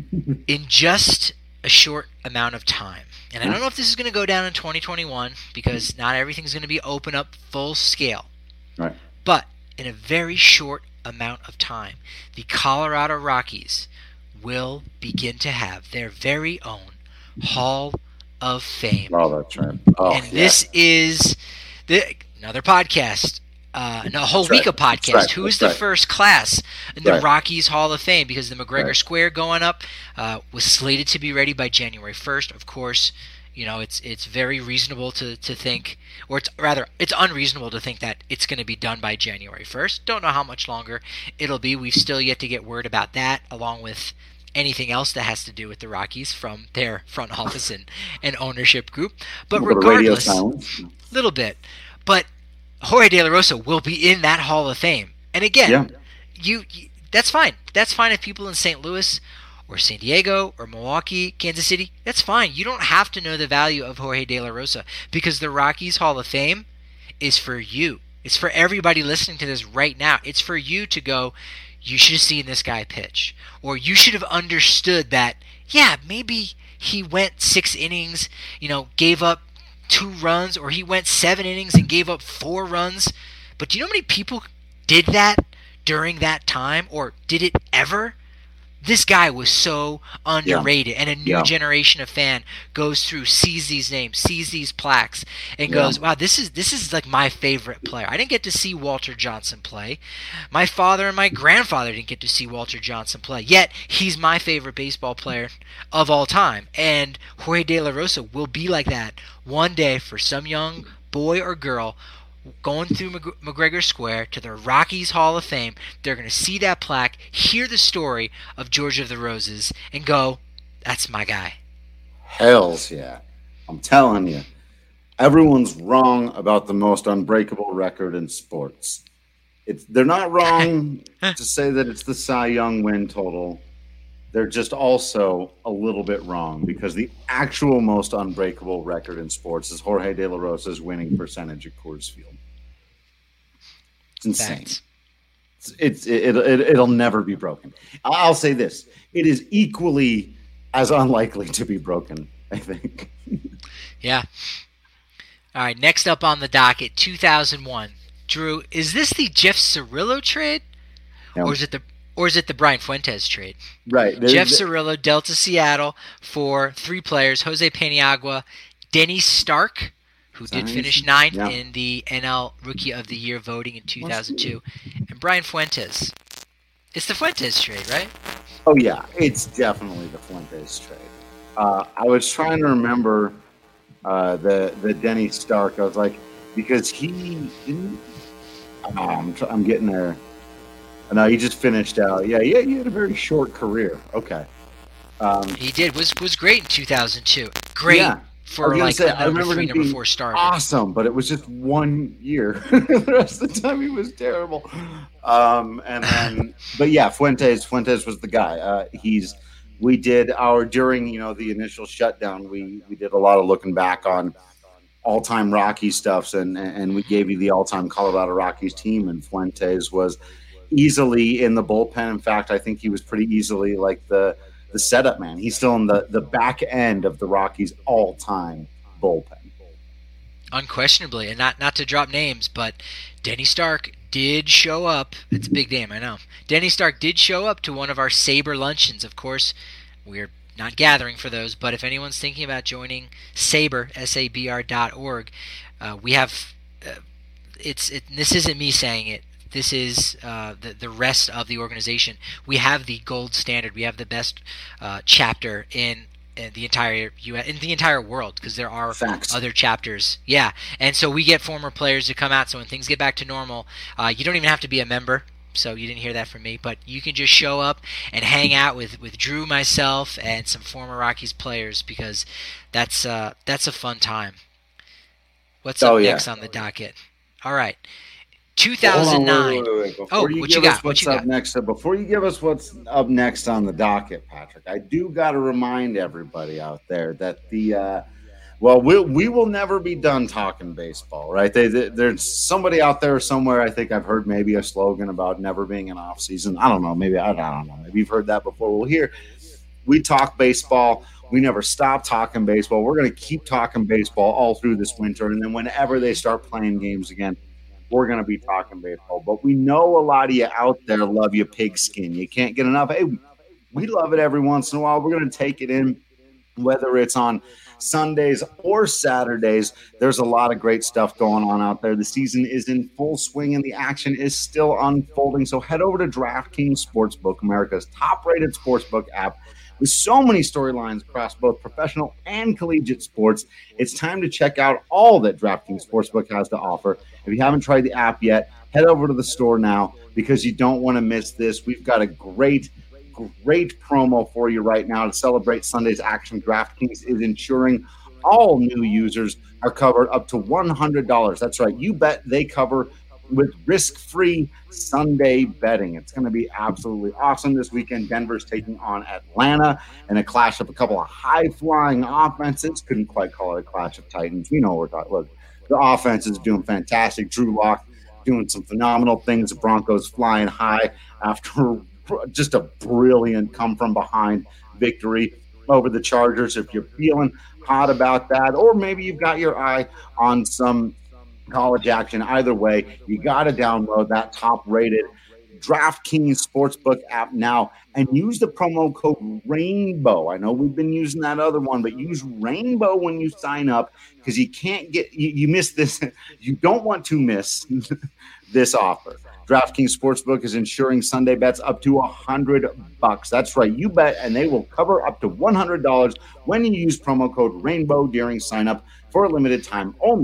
in just a short amount of time. And I don't know if this is going to go down in twenty twenty-one because not everything's going to be open up full scale. Right. But in a very short amount of time, the Colorado Rockies will begin to have their very own Hall of Fame. Oh, that's right. Oh, and yeah. this is the, another podcast, uh, a whole That's week right. of podcasts. That's right. Who is That's the right. first class in the Right. Rockies Hall of Fame? Because the McGregor Right. Square going up uh, was slated to be ready by January first. Of course, you know it's it's very reasonable to, to think, or it's rather it's unreasonable to think that it's going to be done by January first. Don't know how much longer it'll be. We've still yet to get word about that, along with anything else that has to do with the Rockies from their front office and, and ownership group. But A little bit of radio regardless, silence. little bit. But Jorge De La Rosa will be in that Hall of Fame. And again, Yeah. you, you that's fine. That's fine if people in Saint Louis or San Diego or Milwaukee, Kansas City, that's fine. You don't have to know the value of Jorge De La Rosa because the Rockies Hall of Fame is for you. It's for everybody listening to this right now. It's for you to go, you should have seen this guy pitch. Or you should have understood that, yeah, maybe he went six innings, you know, gave up two runs, or he went seven innings and gave up four runs. But do you know how many people did that during that time, or did it ever? This guy was so underrated, and a new Yeah. generation of fan goes through, sees these names, sees these plaques, and Yeah. goes, "Wow, this is this is like my favorite player." I didn't get to see Walter Johnson play. My father and my grandfather didn't get to see Walter Johnson play. Yet he's my favorite baseball player of all time, and Jorge De La Rosa will be like that one day for some young boy or girl going through Mc- McGregor Square to the Rockies Hall of Fame. They're going to see that plaque, hear the story of George of the Roses, and go, that's my guy. Hells yeah. I'm telling you, everyone's wrong about the most unbreakable record in sports. It's, they're not wrong to say that it's the Cy Young win total. They're just also a little bit wrong because the actual most unbreakable record in sports is Jorge De La Rosa's winning percentage at Coors Field. It's insane. It's, it's it, it, it'll never be broken. I'll say this. It is equally as unlikely to be broken, I think. Yeah. All right, next up on the docket, two thousand one. Drew, is this the Jeff Cirillo trade? No. Or is it the Or is it the Brian Fuentes trade? Right. Jeff Cirillo dealt to Seattle for three players: Jose Paniagua, Denny Stark, who did nice. finish ninth yeah. in the N L Rookie of the Year voting in two thousand two, and Brian Fuentes. It's the Fuentes trade, right? Oh, yeah. It's definitely the Fuentes trade. Uh, I was trying to remember uh, the, the Denny Stark. I was like, because he didn't... Oh, I'm, tr- I'm getting there. No, he just finished out. Yeah, yeah, he had a very short career. Okay. Um, he did. Was was great in two thousand two. Great yeah, for like say, a number three, number four starter. Awesome, but it was just one year. The rest of the time he was terrible. Um, and then, but yeah, Fuentes. Fuentes was the guy. Uh, he's. We did our during you know the initial shutdown. We we did a lot of looking back on all-time Rockies stuffs, and and we gave you the all-time Colorado Rockies team, and Fuentes was easily in the bullpen. In fact, I think he was pretty easily like the the setup man. He's still in the, the back end of the Rockies' all-time bullpen. Unquestionably, and not not to drop names, but Denny Stark did show up. It's a big name, I know. Denny Stark did show up to one of our Sabre luncheons. Of course, we're not gathering for those, but if anyone's thinking about joining Sabre, S A B R dot org, uh, we have, uh, it's it, this isn't me saying it, this is uh, the, the rest of the organization. We have the gold standard. We have the best uh, chapter in, in the entire U S, in the entire world, because there are Facts. other chapters. Yeah, and so we get former players to come out, so when things get back to normal, uh, you don't even have to be a member. So you didn't hear that from me, but you can just show up and hang out with, with Drew, myself, and some former Rockies players, because that's uh, that's a fun time. What's up oh, yeah. next on the docket? All right, two thousand nine. Wait, wait, wait, wait. Oh, you what give you us got? What's What you up got? next? Before you give us what's up next on the docket, Patrick, I do got to remind everybody out there that the uh, well, we we will never be done talking baseball, right? They, they, there's somebody out there somewhere. I think I've heard maybe a slogan about never being an off season. I don't know. Maybe I, I don't know. Maybe you've heard that before. Well, here we talk baseball. We never stop talking baseball. We're going to keep talking baseball all through this winter, and then whenever they start playing games again, we're going to be talking baseball. But we know a lot of you out there love your pigskin. You can't get enough. Hey, we love it every once in a while. We're going to take it in, whether it's on Sundays or Saturdays. There's a lot of great stuff going on out there. The season is in full swing and the action is still unfolding. So head over to DraftKings Sportsbook, America's top-rated sportsbook app. With so many storylines across both professional and collegiate sports, it's time to check out all that DraftKings Sportsbook has to offer. If you haven't tried the app yet, head over to the store now, because you don't want to miss this. We've got a great Great promo for you right now to celebrate Sunday's action. DraftKings is ensuring all new users are covered up to one hundred dollars. That's right. You bet they cover with risk-free Sunday betting. It's going to be absolutely awesome this weekend. Denver's taking on Atlanta in a clash of a couple of high-flying offenses. Couldn't quite call it a clash of titans. We know what we're talking. Look, the offense is doing fantastic. Drew Lock doing some phenomenal things. The Broncos flying high after just a brilliant come-from-behind victory over the Chargers. If you're feeling hot about that, or maybe you've got your eye on some college action, either way, you got to download that top-rated DraftKings Sportsbook app now and use the promo code RAINBOW. I know we've been using that other one, but use RAINBOW when you sign up, because you can't get you, you miss this. You don't want to miss this offer. DraftKings Sportsbook is insuring Sunday bets up to one hundred bucks. That's right. You bet, and they will cover up to one hundred dollars when you use promo code RAINBOW during sign-up for a limited time only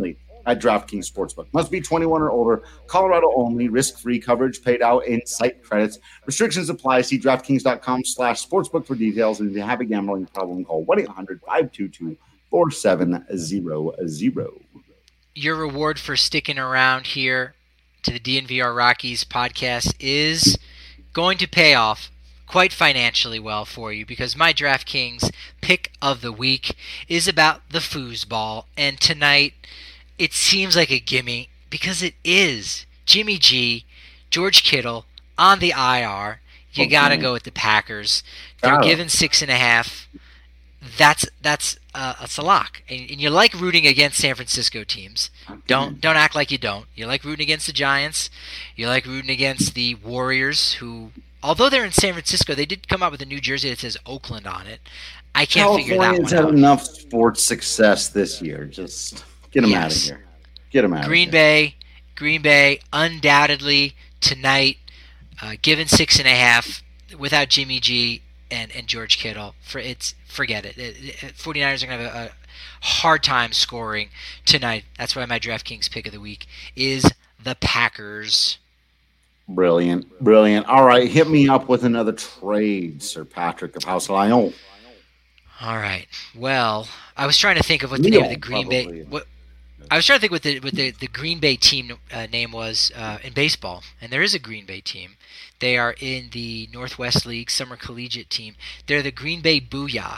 at DraftKings Sportsbook. Must be twenty-one or older. Colorado only. Risk-free coverage paid out in site credits. Restrictions apply. See DraftKings.com slash sportsbook for details. And if you have a gambling problem, call one eight hundred five two two four seven zero zero. Your reward for sticking around here to the D N V R Rockies podcast is going to pay off quite financially well for you, because my DraftKings pick of the week is about the foosball. And tonight, it seems like a gimme, because it is. Jimmy G, George Kittle on the I R. You okay. got to go with the Packers. They're oh. given six and a half. That's that's uh, that's a lock. And, and you like rooting against San Francisco teams. Don't don't act like you don't. You like rooting against the Giants. You like rooting against the Warriors, who, although they're in San Francisco, they did come out with a new jersey that says Oakland on it. I can't Californians figure that one out. Californians had enough sports success this year. Just get them yes. out of here. Get them out Green of here. Bay, Green Bay, undoubtedly tonight, uh, given six and a half without Jimmy G and, and George Kittle. For it's forget it. it, it 49ers are going to have a, a hard time scoring tonight. That's why my DraftKings pick of the week is the Packers. Brilliant. Brilliant. All right, hit me up with another trade, Sir Patrick of House Lion. All right. Well, I was trying to think of what the Leo, name of the Green probably. Bay. What I was trying to think what the what the, the Green Bay team uh, name was uh, in baseball, and there is a Green Bay team. They are in the Northwest League Summer Collegiate team. They're the Green Bay Booyah.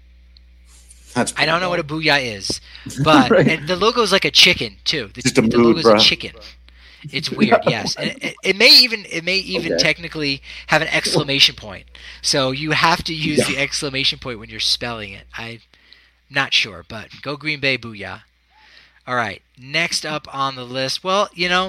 That's I don't know what a booyah is, but right. and the logo is like a chicken too. The, Just a the mood, logo's bro. a chicken. It's weird, yes. And it, it may even it may even okay. technically have an exclamation point. So you have to use yeah. the exclamation point when you're spelling it. I'm not sure, but go Green Bay Booyah. All right, next up on the list. Well, you know,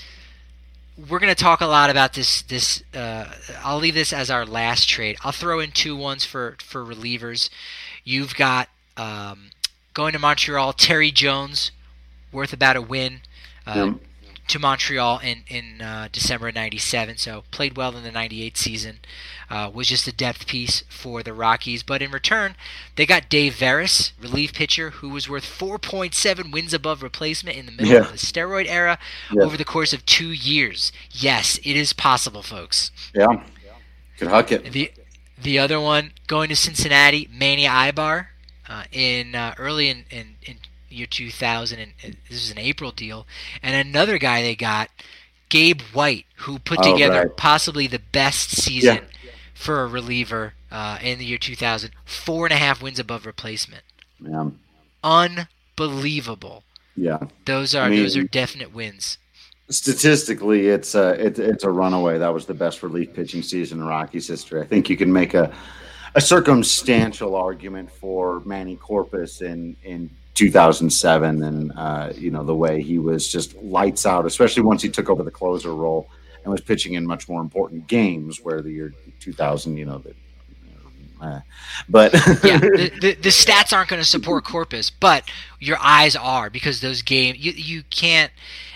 we're going to talk a lot about this. This uh, I'll leave this as our last trade. I'll throw in two ones for, for relievers. You've got um, going to Montreal, Terry Jones, worth about a win. Uh, yeah. To Montreal in, in uh, December of ninety-seven, so played well in the ninety-eight season. Uh, was just a depth piece for the Rockies. But in return, they got Dave Veras, relief pitcher, who was worth four point seven wins above replacement in the middle yeah. of the steroid era yeah. over the course of two years. Yes, it is possible, folks. Yeah, could huck it. The, the other one, going to Cincinnati, Manny Ibar, uh, in uh, early in, in, in year two thousand, and this is an April deal. And another guy they got, Gabe White, who put oh, together right. possibly the best season yeah. for a reliever uh, in the year two thousand. Four and a half wins above replacement. Yeah. Unbelievable. Yeah. Those are I mean, those are definite wins. Statistically, it's a it, it's a runaway. That was the best relief pitching season in Rockies history. I think you can make a a circumstantial argument for Manny Corpus in in two thousand seven, and uh, you know, the way he was just lights out, especially once he took over the closer role and was pitching in much more important games. Where the year two thousand, you know, the, uh, but yeah, the, the the stats aren't going to support Corpus, but your eyes are, because those games you you can't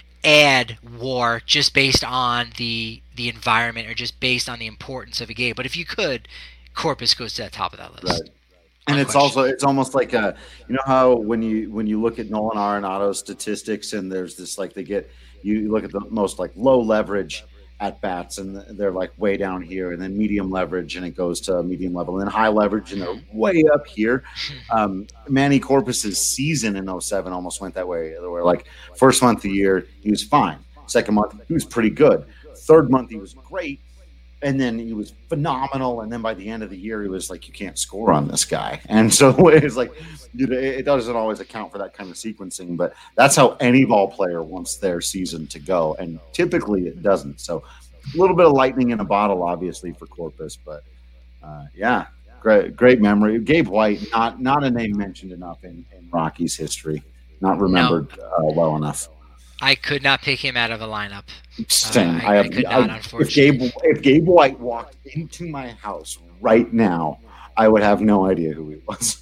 add WAR just based on the the environment or just based on the importance of a game. But if you could, Corpus goes to the top of that list. Right. And it's also it's almost like a, you know how when you when you look at Nolan Arenado's statistics, and there's this, like, they get you look at the most like low leverage at bats, and they're like way down here, and then medium leverage, and it goes to medium level, and then high leverage, and they're way up here. Um, Manny Corpus's season in oh seven almost went that way, where like first month of the year he was fine, second month he was pretty good, third month he was great. And then he was phenomenal, and then by the end of the year, he was like, you can't score on this guy. And so it's like, you know, it doesn't always account for that kind of sequencing, but that's how any ball player wants their season to go, and typically it doesn't. So a little bit of lightning in a bottle, obviously, for Corpus, but uh, yeah, great, great memory. Gabe White, not not a name mentioned enough in, in Rockies history, not remembered no. uh, well enough. I could not pick him out of a lineup. Same. Uh, I, I, have, I could I, not, unfortunately. If Gabe, if Gabe White walked into my house right now, I would have no idea who he was.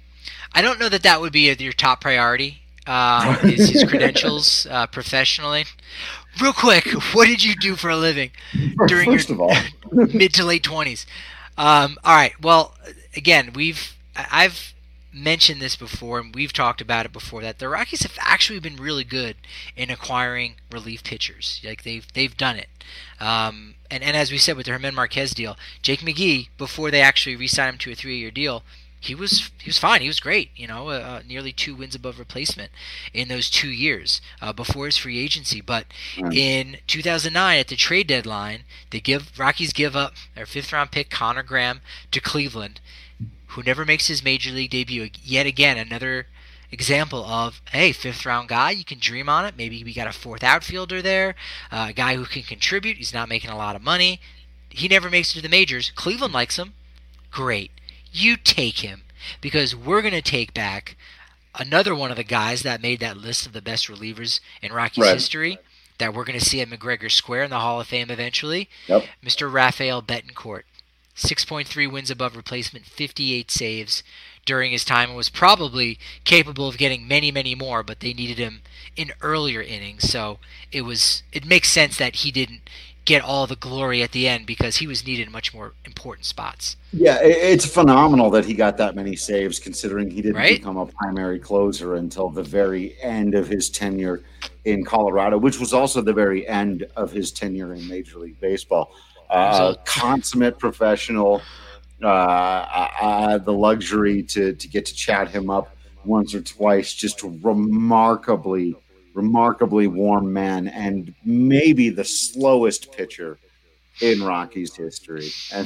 I don't know that that would be your top priority, uh, his, his credentials uh, professionally. Real quick, what did you do for a living during First your of all. mid to late twenties? Um, all right. Well, again, we've I've mentioned this before, and we've talked about it before, that the Rockies have actually been really good in acquiring relief pitchers. Like they've they've done it. Um, and, and as we said with the Germán Marquez deal, Jake McGee, before they actually re-signed him to a three-year deal, he was he was fine. He was great. You know, uh, uh, nearly two wins above replacement in those two years uh, before his free agency. But right. in two thousand nine, at the trade deadline, they give Rockies give up their fifth-round pick Connor Graham to Cleveland, who never makes his major league debut. Yet again, another example of, hey, fifth-round guy, you can dream on it. Maybe we got a fourth outfielder there, uh, a guy who can contribute. He's not making a lot of money. He never makes it to the majors. Cleveland likes him. Great. You take him, because we're going to take back another one of the guys that made that list of the best relievers in Rockies right. history that we're going to see at McGregor Square in the Hall of Fame eventually, yep. Mister Rafael Betancourt. six point three wins above replacement, fifty-eight saves during his time, and was probably capable of getting many, many more, but they needed him in earlier innings, so it was it makes sense that he didn't get all the glory at the end, because he was needed in much more important spots. Yeah, it's phenomenal that he got that many saves, considering he didn't right? become a primary closer until the very end of his tenure in Colorado, which was also the very end of his tenure in Major League Baseball. Uh, consummate professional, uh, I, I had the luxury to, to get to chat him up once or twice, just remarkably remarkably warm man, and maybe the slowest pitcher in Rockies history. And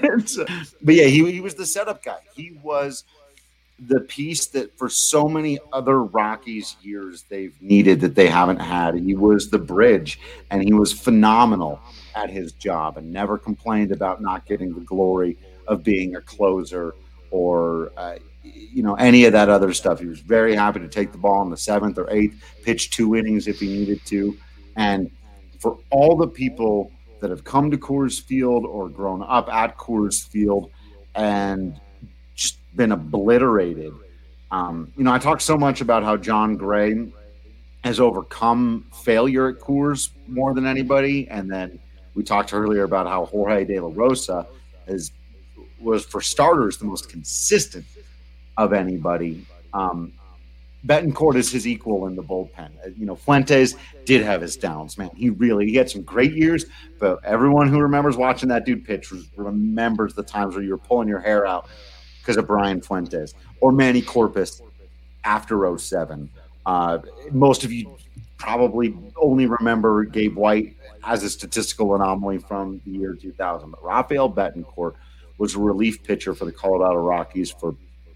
but yeah, he, he was the setup guy. He was the piece that for so many other Rockies years they've needed that they haven't had. He was the bridge, and he was phenomenal at his job and never complained about not getting the glory of being a closer or uh, you know, any of that other stuff. He was very happy to take the ball in the seventh or eighth, pitch two innings if he needed to. And for all the people that have come to Coors Field or grown up at Coors Field and just been obliterated, um, you know, I talk so much about how John Gray has overcome failure at Coors more than anybody. And then we talked earlier about how Jorge De La Rosa is, was, for starters, the most consistent of anybody. Um, Betancourt is his equal in the bullpen. You know, Fuentes did have his downs, man. He really, he had some great years, but everyone who remembers watching that dude pitch remembers the times where you were pulling your hair out because of Brian Fuentes or Manny Corpus after oh seven. Uh, most of you probably only remember Gabe White as a statistical anomaly from the year two thousand, but Rafael Betancourt was a relief pitcher for the Colorado Rockies for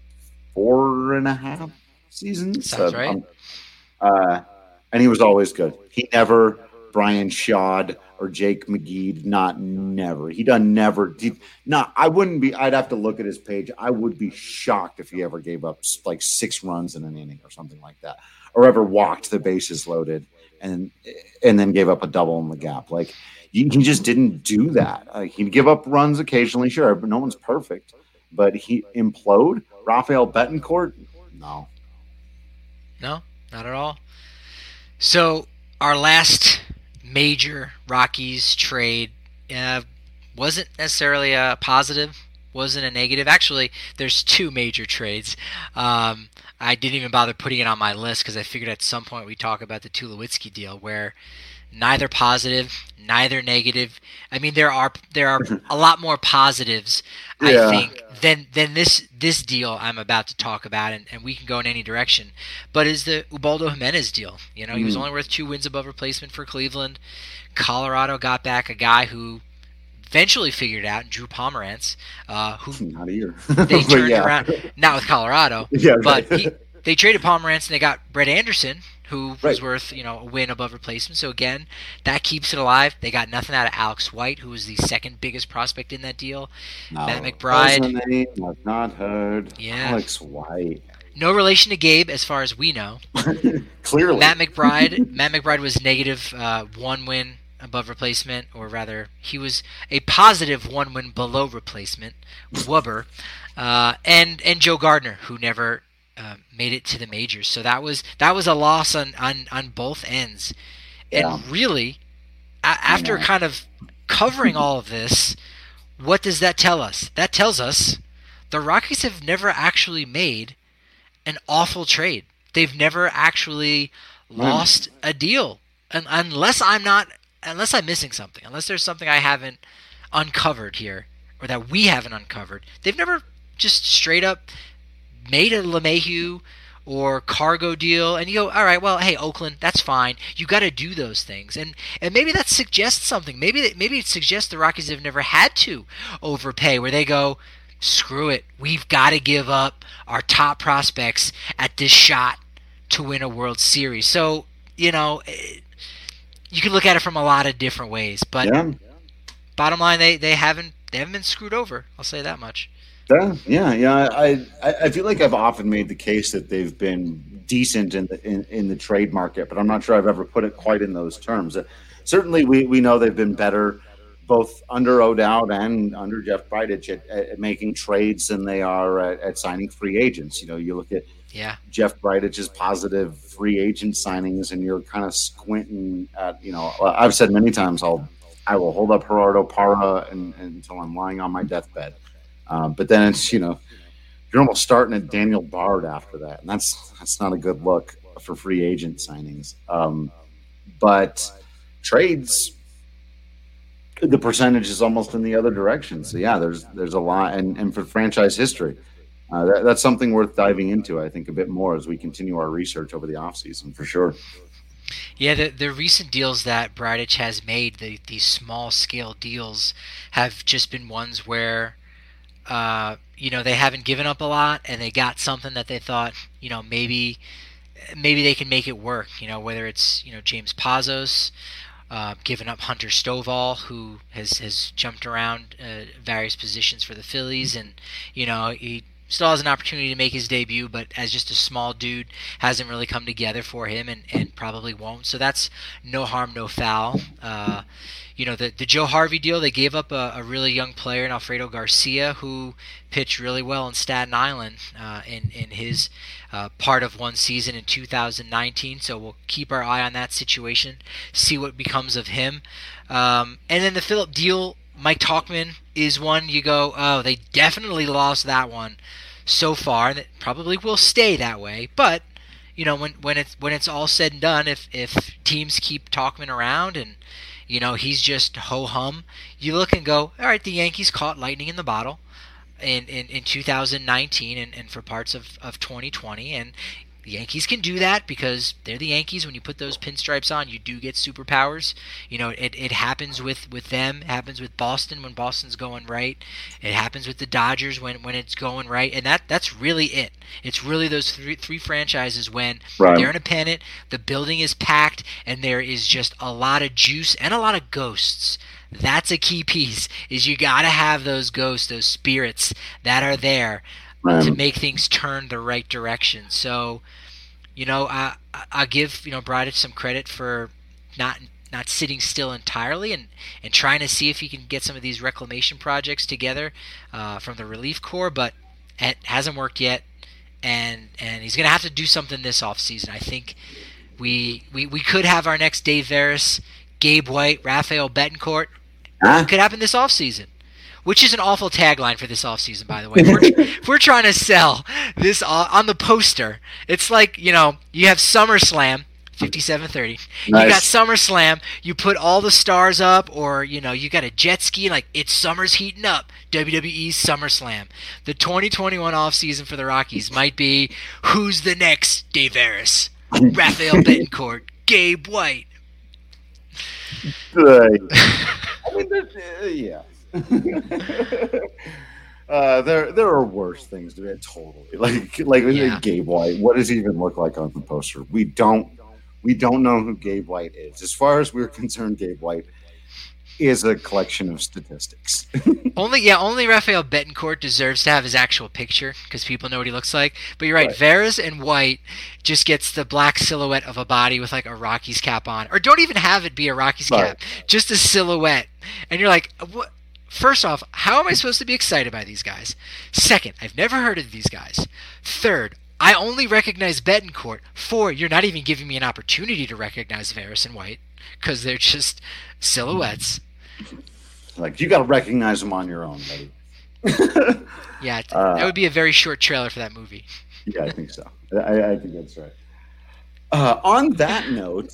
four and a half seasons. Sounds uh, right. Um, uh, and he was always good. He never Brian Shad or Jake McGee, not never. He done never. He, not. I wouldn't be. I'd have to look at his page. I would be shocked if he ever gave up like six runs in an inning or something like that, or ever walked the bases loaded and and then gave up a double in the gap. Like he, he just didn't do that. Uh, he'd give up runs occasionally, sure, but no one's perfect. But he implode. Rafael Betancourt, no. No, not at all. So our last major Rockies trade uh, wasn't necessarily a positive, wasn't a negative. Actually, there's two major trades. Um, I didn't even bother putting it on my list because I figured at some point we'd talk about the Tulowitzki deal, where neither positive, neither negative. I mean, there are there are a lot more positives, yeah. I think, than than this this deal I'm about to talk about, and, and we can go in any direction. But is the Ubaldo Jimenez deal. You know, he was only worth two wins above replacement for Cleveland. Colorado got back a guy who eventually figured out, Drew Pomerantz, uh, who not here. they turned yeah. around, not with Colorado, yeah, but right. he, they traded Pomerantz and they got Brett Anderson, who was right. worth, you know, a win above replacement. So again, that keeps it alive. They got nothing out of Alex White, who was the second biggest prospect in that deal. No, Matt McBride. That's a name I've not heard. Yeah. Alex White. No relation to Gabe, as far as we know. Clearly. Matt McBride. Matt McBride was negative uh, one win above replacement, or rather, he was a positive one win below replacement. Wubber, uh, and and Joe Gardner, who never uh, made it to the majors. So that was that was a loss on on, on both ends. Yeah. And really, a- after kind of covering all of this, what does that tell us? That tells us the Rockies have never actually made an awful trade. They've never actually lost a deal, and unless I'm not, unless I'm missing something, unless there's something I haven't uncovered here, or that we haven't uncovered. They've never just straight up made a LeMahieu or Cargo deal, and you go, all right, well, hey, Oakland, that's fine. You got to do those things, and and maybe that suggests something. Maybe that, maybe it suggests the Rockies have never had to overpay, where they go, screw it, we've got to give up our top prospects at this shot to win a World Series. So, you know, you can look at it from a lot of different ways, but yeah. Bottom line, they, they haven't they haven't been screwed over. I'll say that much. Yeah, yeah, yeah. I I feel like I've often made the case that they've been decent in the in, in the trade market, but I'm not sure I've ever put it quite in those terms. Uh, certainly, we, we know they've been better both under O'Dowd and under Jeff Bridich at, at making trades than they are at, at signing free agents. You know, you look at yeah. Jeff Bridich's positive free agent signings, and you're kind of squinting at, you know, I've said many times, I'll I will hold up Gerardo Parra and, and, until I'm lying on my deathbed. Um, but then it's, you know, you're almost starting at Daniel Bard after that, and that's that's not a good look for free agent signings. Um, but trades, the percentage is almost in the other direction. So yeah, there's there's a lot, and, and for franchise history, uh, that, that's something worth diving into, I think, a bit more as we continue our research over the offseason, for sure. Yeah, the the recent deals that Bridich has made, the these small scale deals, have just been ones where, uh, you know, they haven't given up a lot, and they got something that they thought, you know, maybe maybe they can make it work. You know, whether it's, you know, James Pazos, uh, giving up Hunter Stovall, who has has jumped around uh, various positions for the Phillies, and you know he still has an opportunity to make his debut, but as just a small dude, hasn't really come together for him, and, and probably won't. So that's no harm, no foul. Uh, you know, the the Joe Harvey deal, they gave up a, a really young player in Alfredo Garcia, who pitched really well in Staten Island uh, in, in his uh, part of one season in two thousand nineteen. So we'll keep our eye on that situation, see what becomes of him. Um, and then the Phillip deal, Mike Tauchman is one you go, oh, they definitely lost that one so far, and it probably will stay that way. But you know, when when it's when it's all said and done, if if teams keep Tauchman around and you know he's just ho hum, you look and go, all right, the Yankees caught lightning in the bottle in in, in two thousand nineteen and, and for parts of, of twenty twenty, and the Yankees can do that because they're the Yankees. When you put those pinstripes on, you do get superpowers. You know, it, it happens with, with them. It happens with Boston when Boston's going right. It happens with the Dodgers when, when it's going right. And that that's really it. It's really those three three franchises when right. they're in a pennant, the building is packed, and there is just a lot of juice and a lot of ghosts. That's a key piece, is you got to have those ghosts, those spirits that are there to make things turn the right direction. So, you know, I I give, you know, Bridich some credit for not not sitting still entirely and, and trying to see if he can get some of these reclamation projects together uh, from the relief corps, but it hasn't worked yet, and and he's going to have to do something this offseason. I think we, we we could have our next Dave Veras, Gabe White, Rafael Betancourt. Huh? It could happen this offseason. Which is an awful tagline for this offseason, by the way. If we're, if we're trying to sell this uh, on the poster, it's like, you know, you have SummerSlam, fifty-seven thirty. Nice. You got SummerSlam, you put all the stars up, or, you know, you got a jet ski, like, it's summer's heating up, W W E's SummerSlam. The twenty twenty-one offseason for the Rockies might be, who's the next Dave Veras? Rafael Betancourt, Gabe White. Right. I mean, uh, yeah. uh, there, there are worse things to do. Totally, like, like yeah. Gabe White. What does he even look like on the poster? We don't, we don't know who Gabe White is. As far as we're concerned, Gabe White is a collection of statistics. only, yeah, only Rafael Betancourt deserves to have his actual picture because people know what he looks like. But you're right, right. Veras and White just gets the black silhouette of a body with like a Rockies cap on, or don't even have it be a Rockies right. cap, just a silhouette, and you're like, what? First off, how am I supposed to be excited by these guys? Second, I've never heard of these guys. Third, I only recognize Betancourt. Four, you're not even giving me an opportunity to recognize Veras and White because they're just silhouettes. Like, you got to recognize them on your own, buddy. yeah, uh, that would be a very short trailer for that movie. Yeah, I think so. I, I think that's right. Uh, on that note,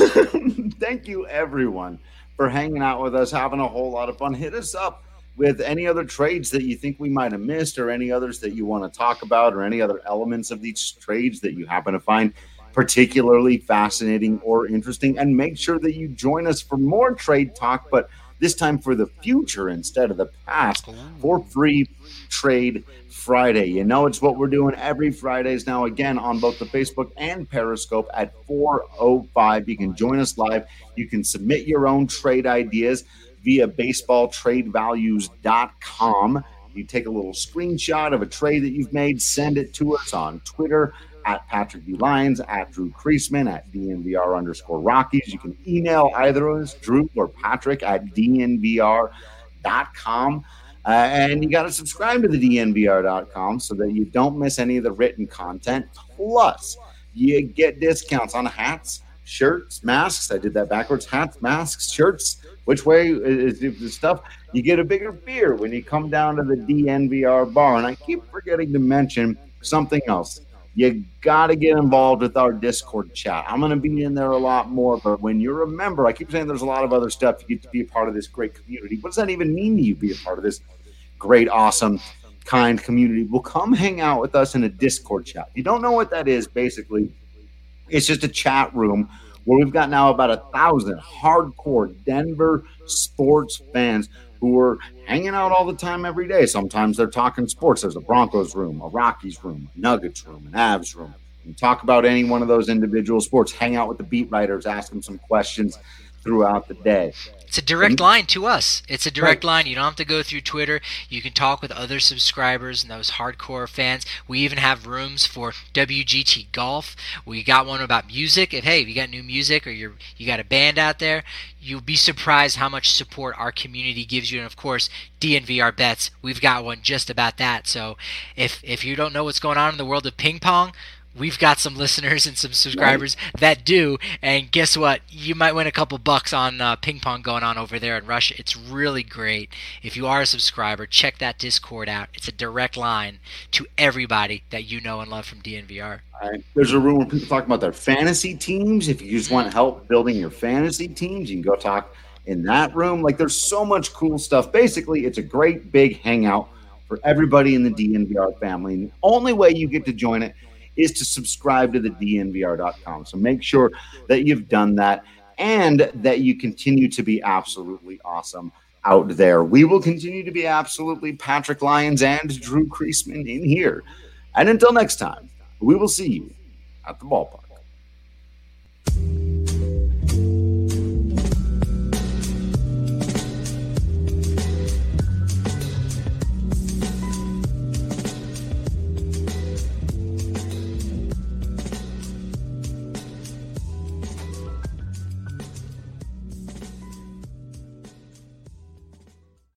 thank you everyone for hanging out with us, having a whole lot of fun. Hit us up with any other trades that you think we might have missed, or any others that you want to talk about, or any other elements of these trades that you happen to find particularly fascinating or interesting. And make sure that you join us for more trade talk, but this time for the future instead of the past, for Free Trade Friday. You know, it's what we're doing every Fridays now, again, on both the Facebook and Periscope at four oh five. You can join us live. You can submit your own trade ideas via baseball trade values dot com. You take a little screenshot of a trade that you've made, send it to us on Twitter at Patrick D. Lyons, at Drew Creasman, at D N V R underscore Rockies. You can email either of us, Drew or Patrick, at D N V R dot com. Uh, and you got to subscribe to the D N V R dot com so that you don't miss any of the written content. Plus, you get discounts on hats, shirts, masks. I did that backwards. Hats, masks, shirts. Which way is the stuff? You get a bigger beer when you come down to the D N V R bar. And I keep forgetting to mention something else. You got to get involved with our Discord chat. I'm going to be in there a lot more, but when you're a member, I keep saying there's a lot of other stuff. You get to be a part of this great community. What does that even mean to you, be a part of this great, awesome, kind community? Well, come hang out with us in a Discord chat. If you don't know what that is, basically, it's just a chat room where we've got now about a thousand hardcore Denver sports fans who are hanging out all the time every day. Sometimes they're talking sports. There's a Broncos room, a Rockies room, a Nuggets room, an Avs room. You talk about any one of those individual sports, hang out with the beat writers, ask them some questions throughout the day. It's a direct line to us. It's a direct line. You don't have to go through Twitter. You can talk with other subscribers and those hardcore fans. We even have rooms for W G T Golf. We got one about music. If, hey, if you got new music or you're, you got a band out there, you'll be surprised how much support our community gives you. And, of course, D N V R Bets, we've got one just about that. So if if you don't know what's going on in the world of ping pong, we've got some listeners and some subscribers right. that do, and guess what? You might win a couple bucks on uh, ping pong going on over there in Russia. It's really great. If you are a subscriber, check that Discord out. It's a direct line to everybody that you know and love from D N V R. Right. There's a room where people talk about their fantasy teams. If you just want help building your fantasy teams, you can go talk in that room. Like, there's so much cool stuff. Basically, it's a great big hangout for everybody in the D N V R family. And the only way you get to join it is to subscribe to the D N V R dot com. So make sure that you've done that and that you continue to be absolutely awesome out there. We will continue to be absolutely Patrick Lyons and Drew Creasman in here. And until next time, we will see you at the ballpark.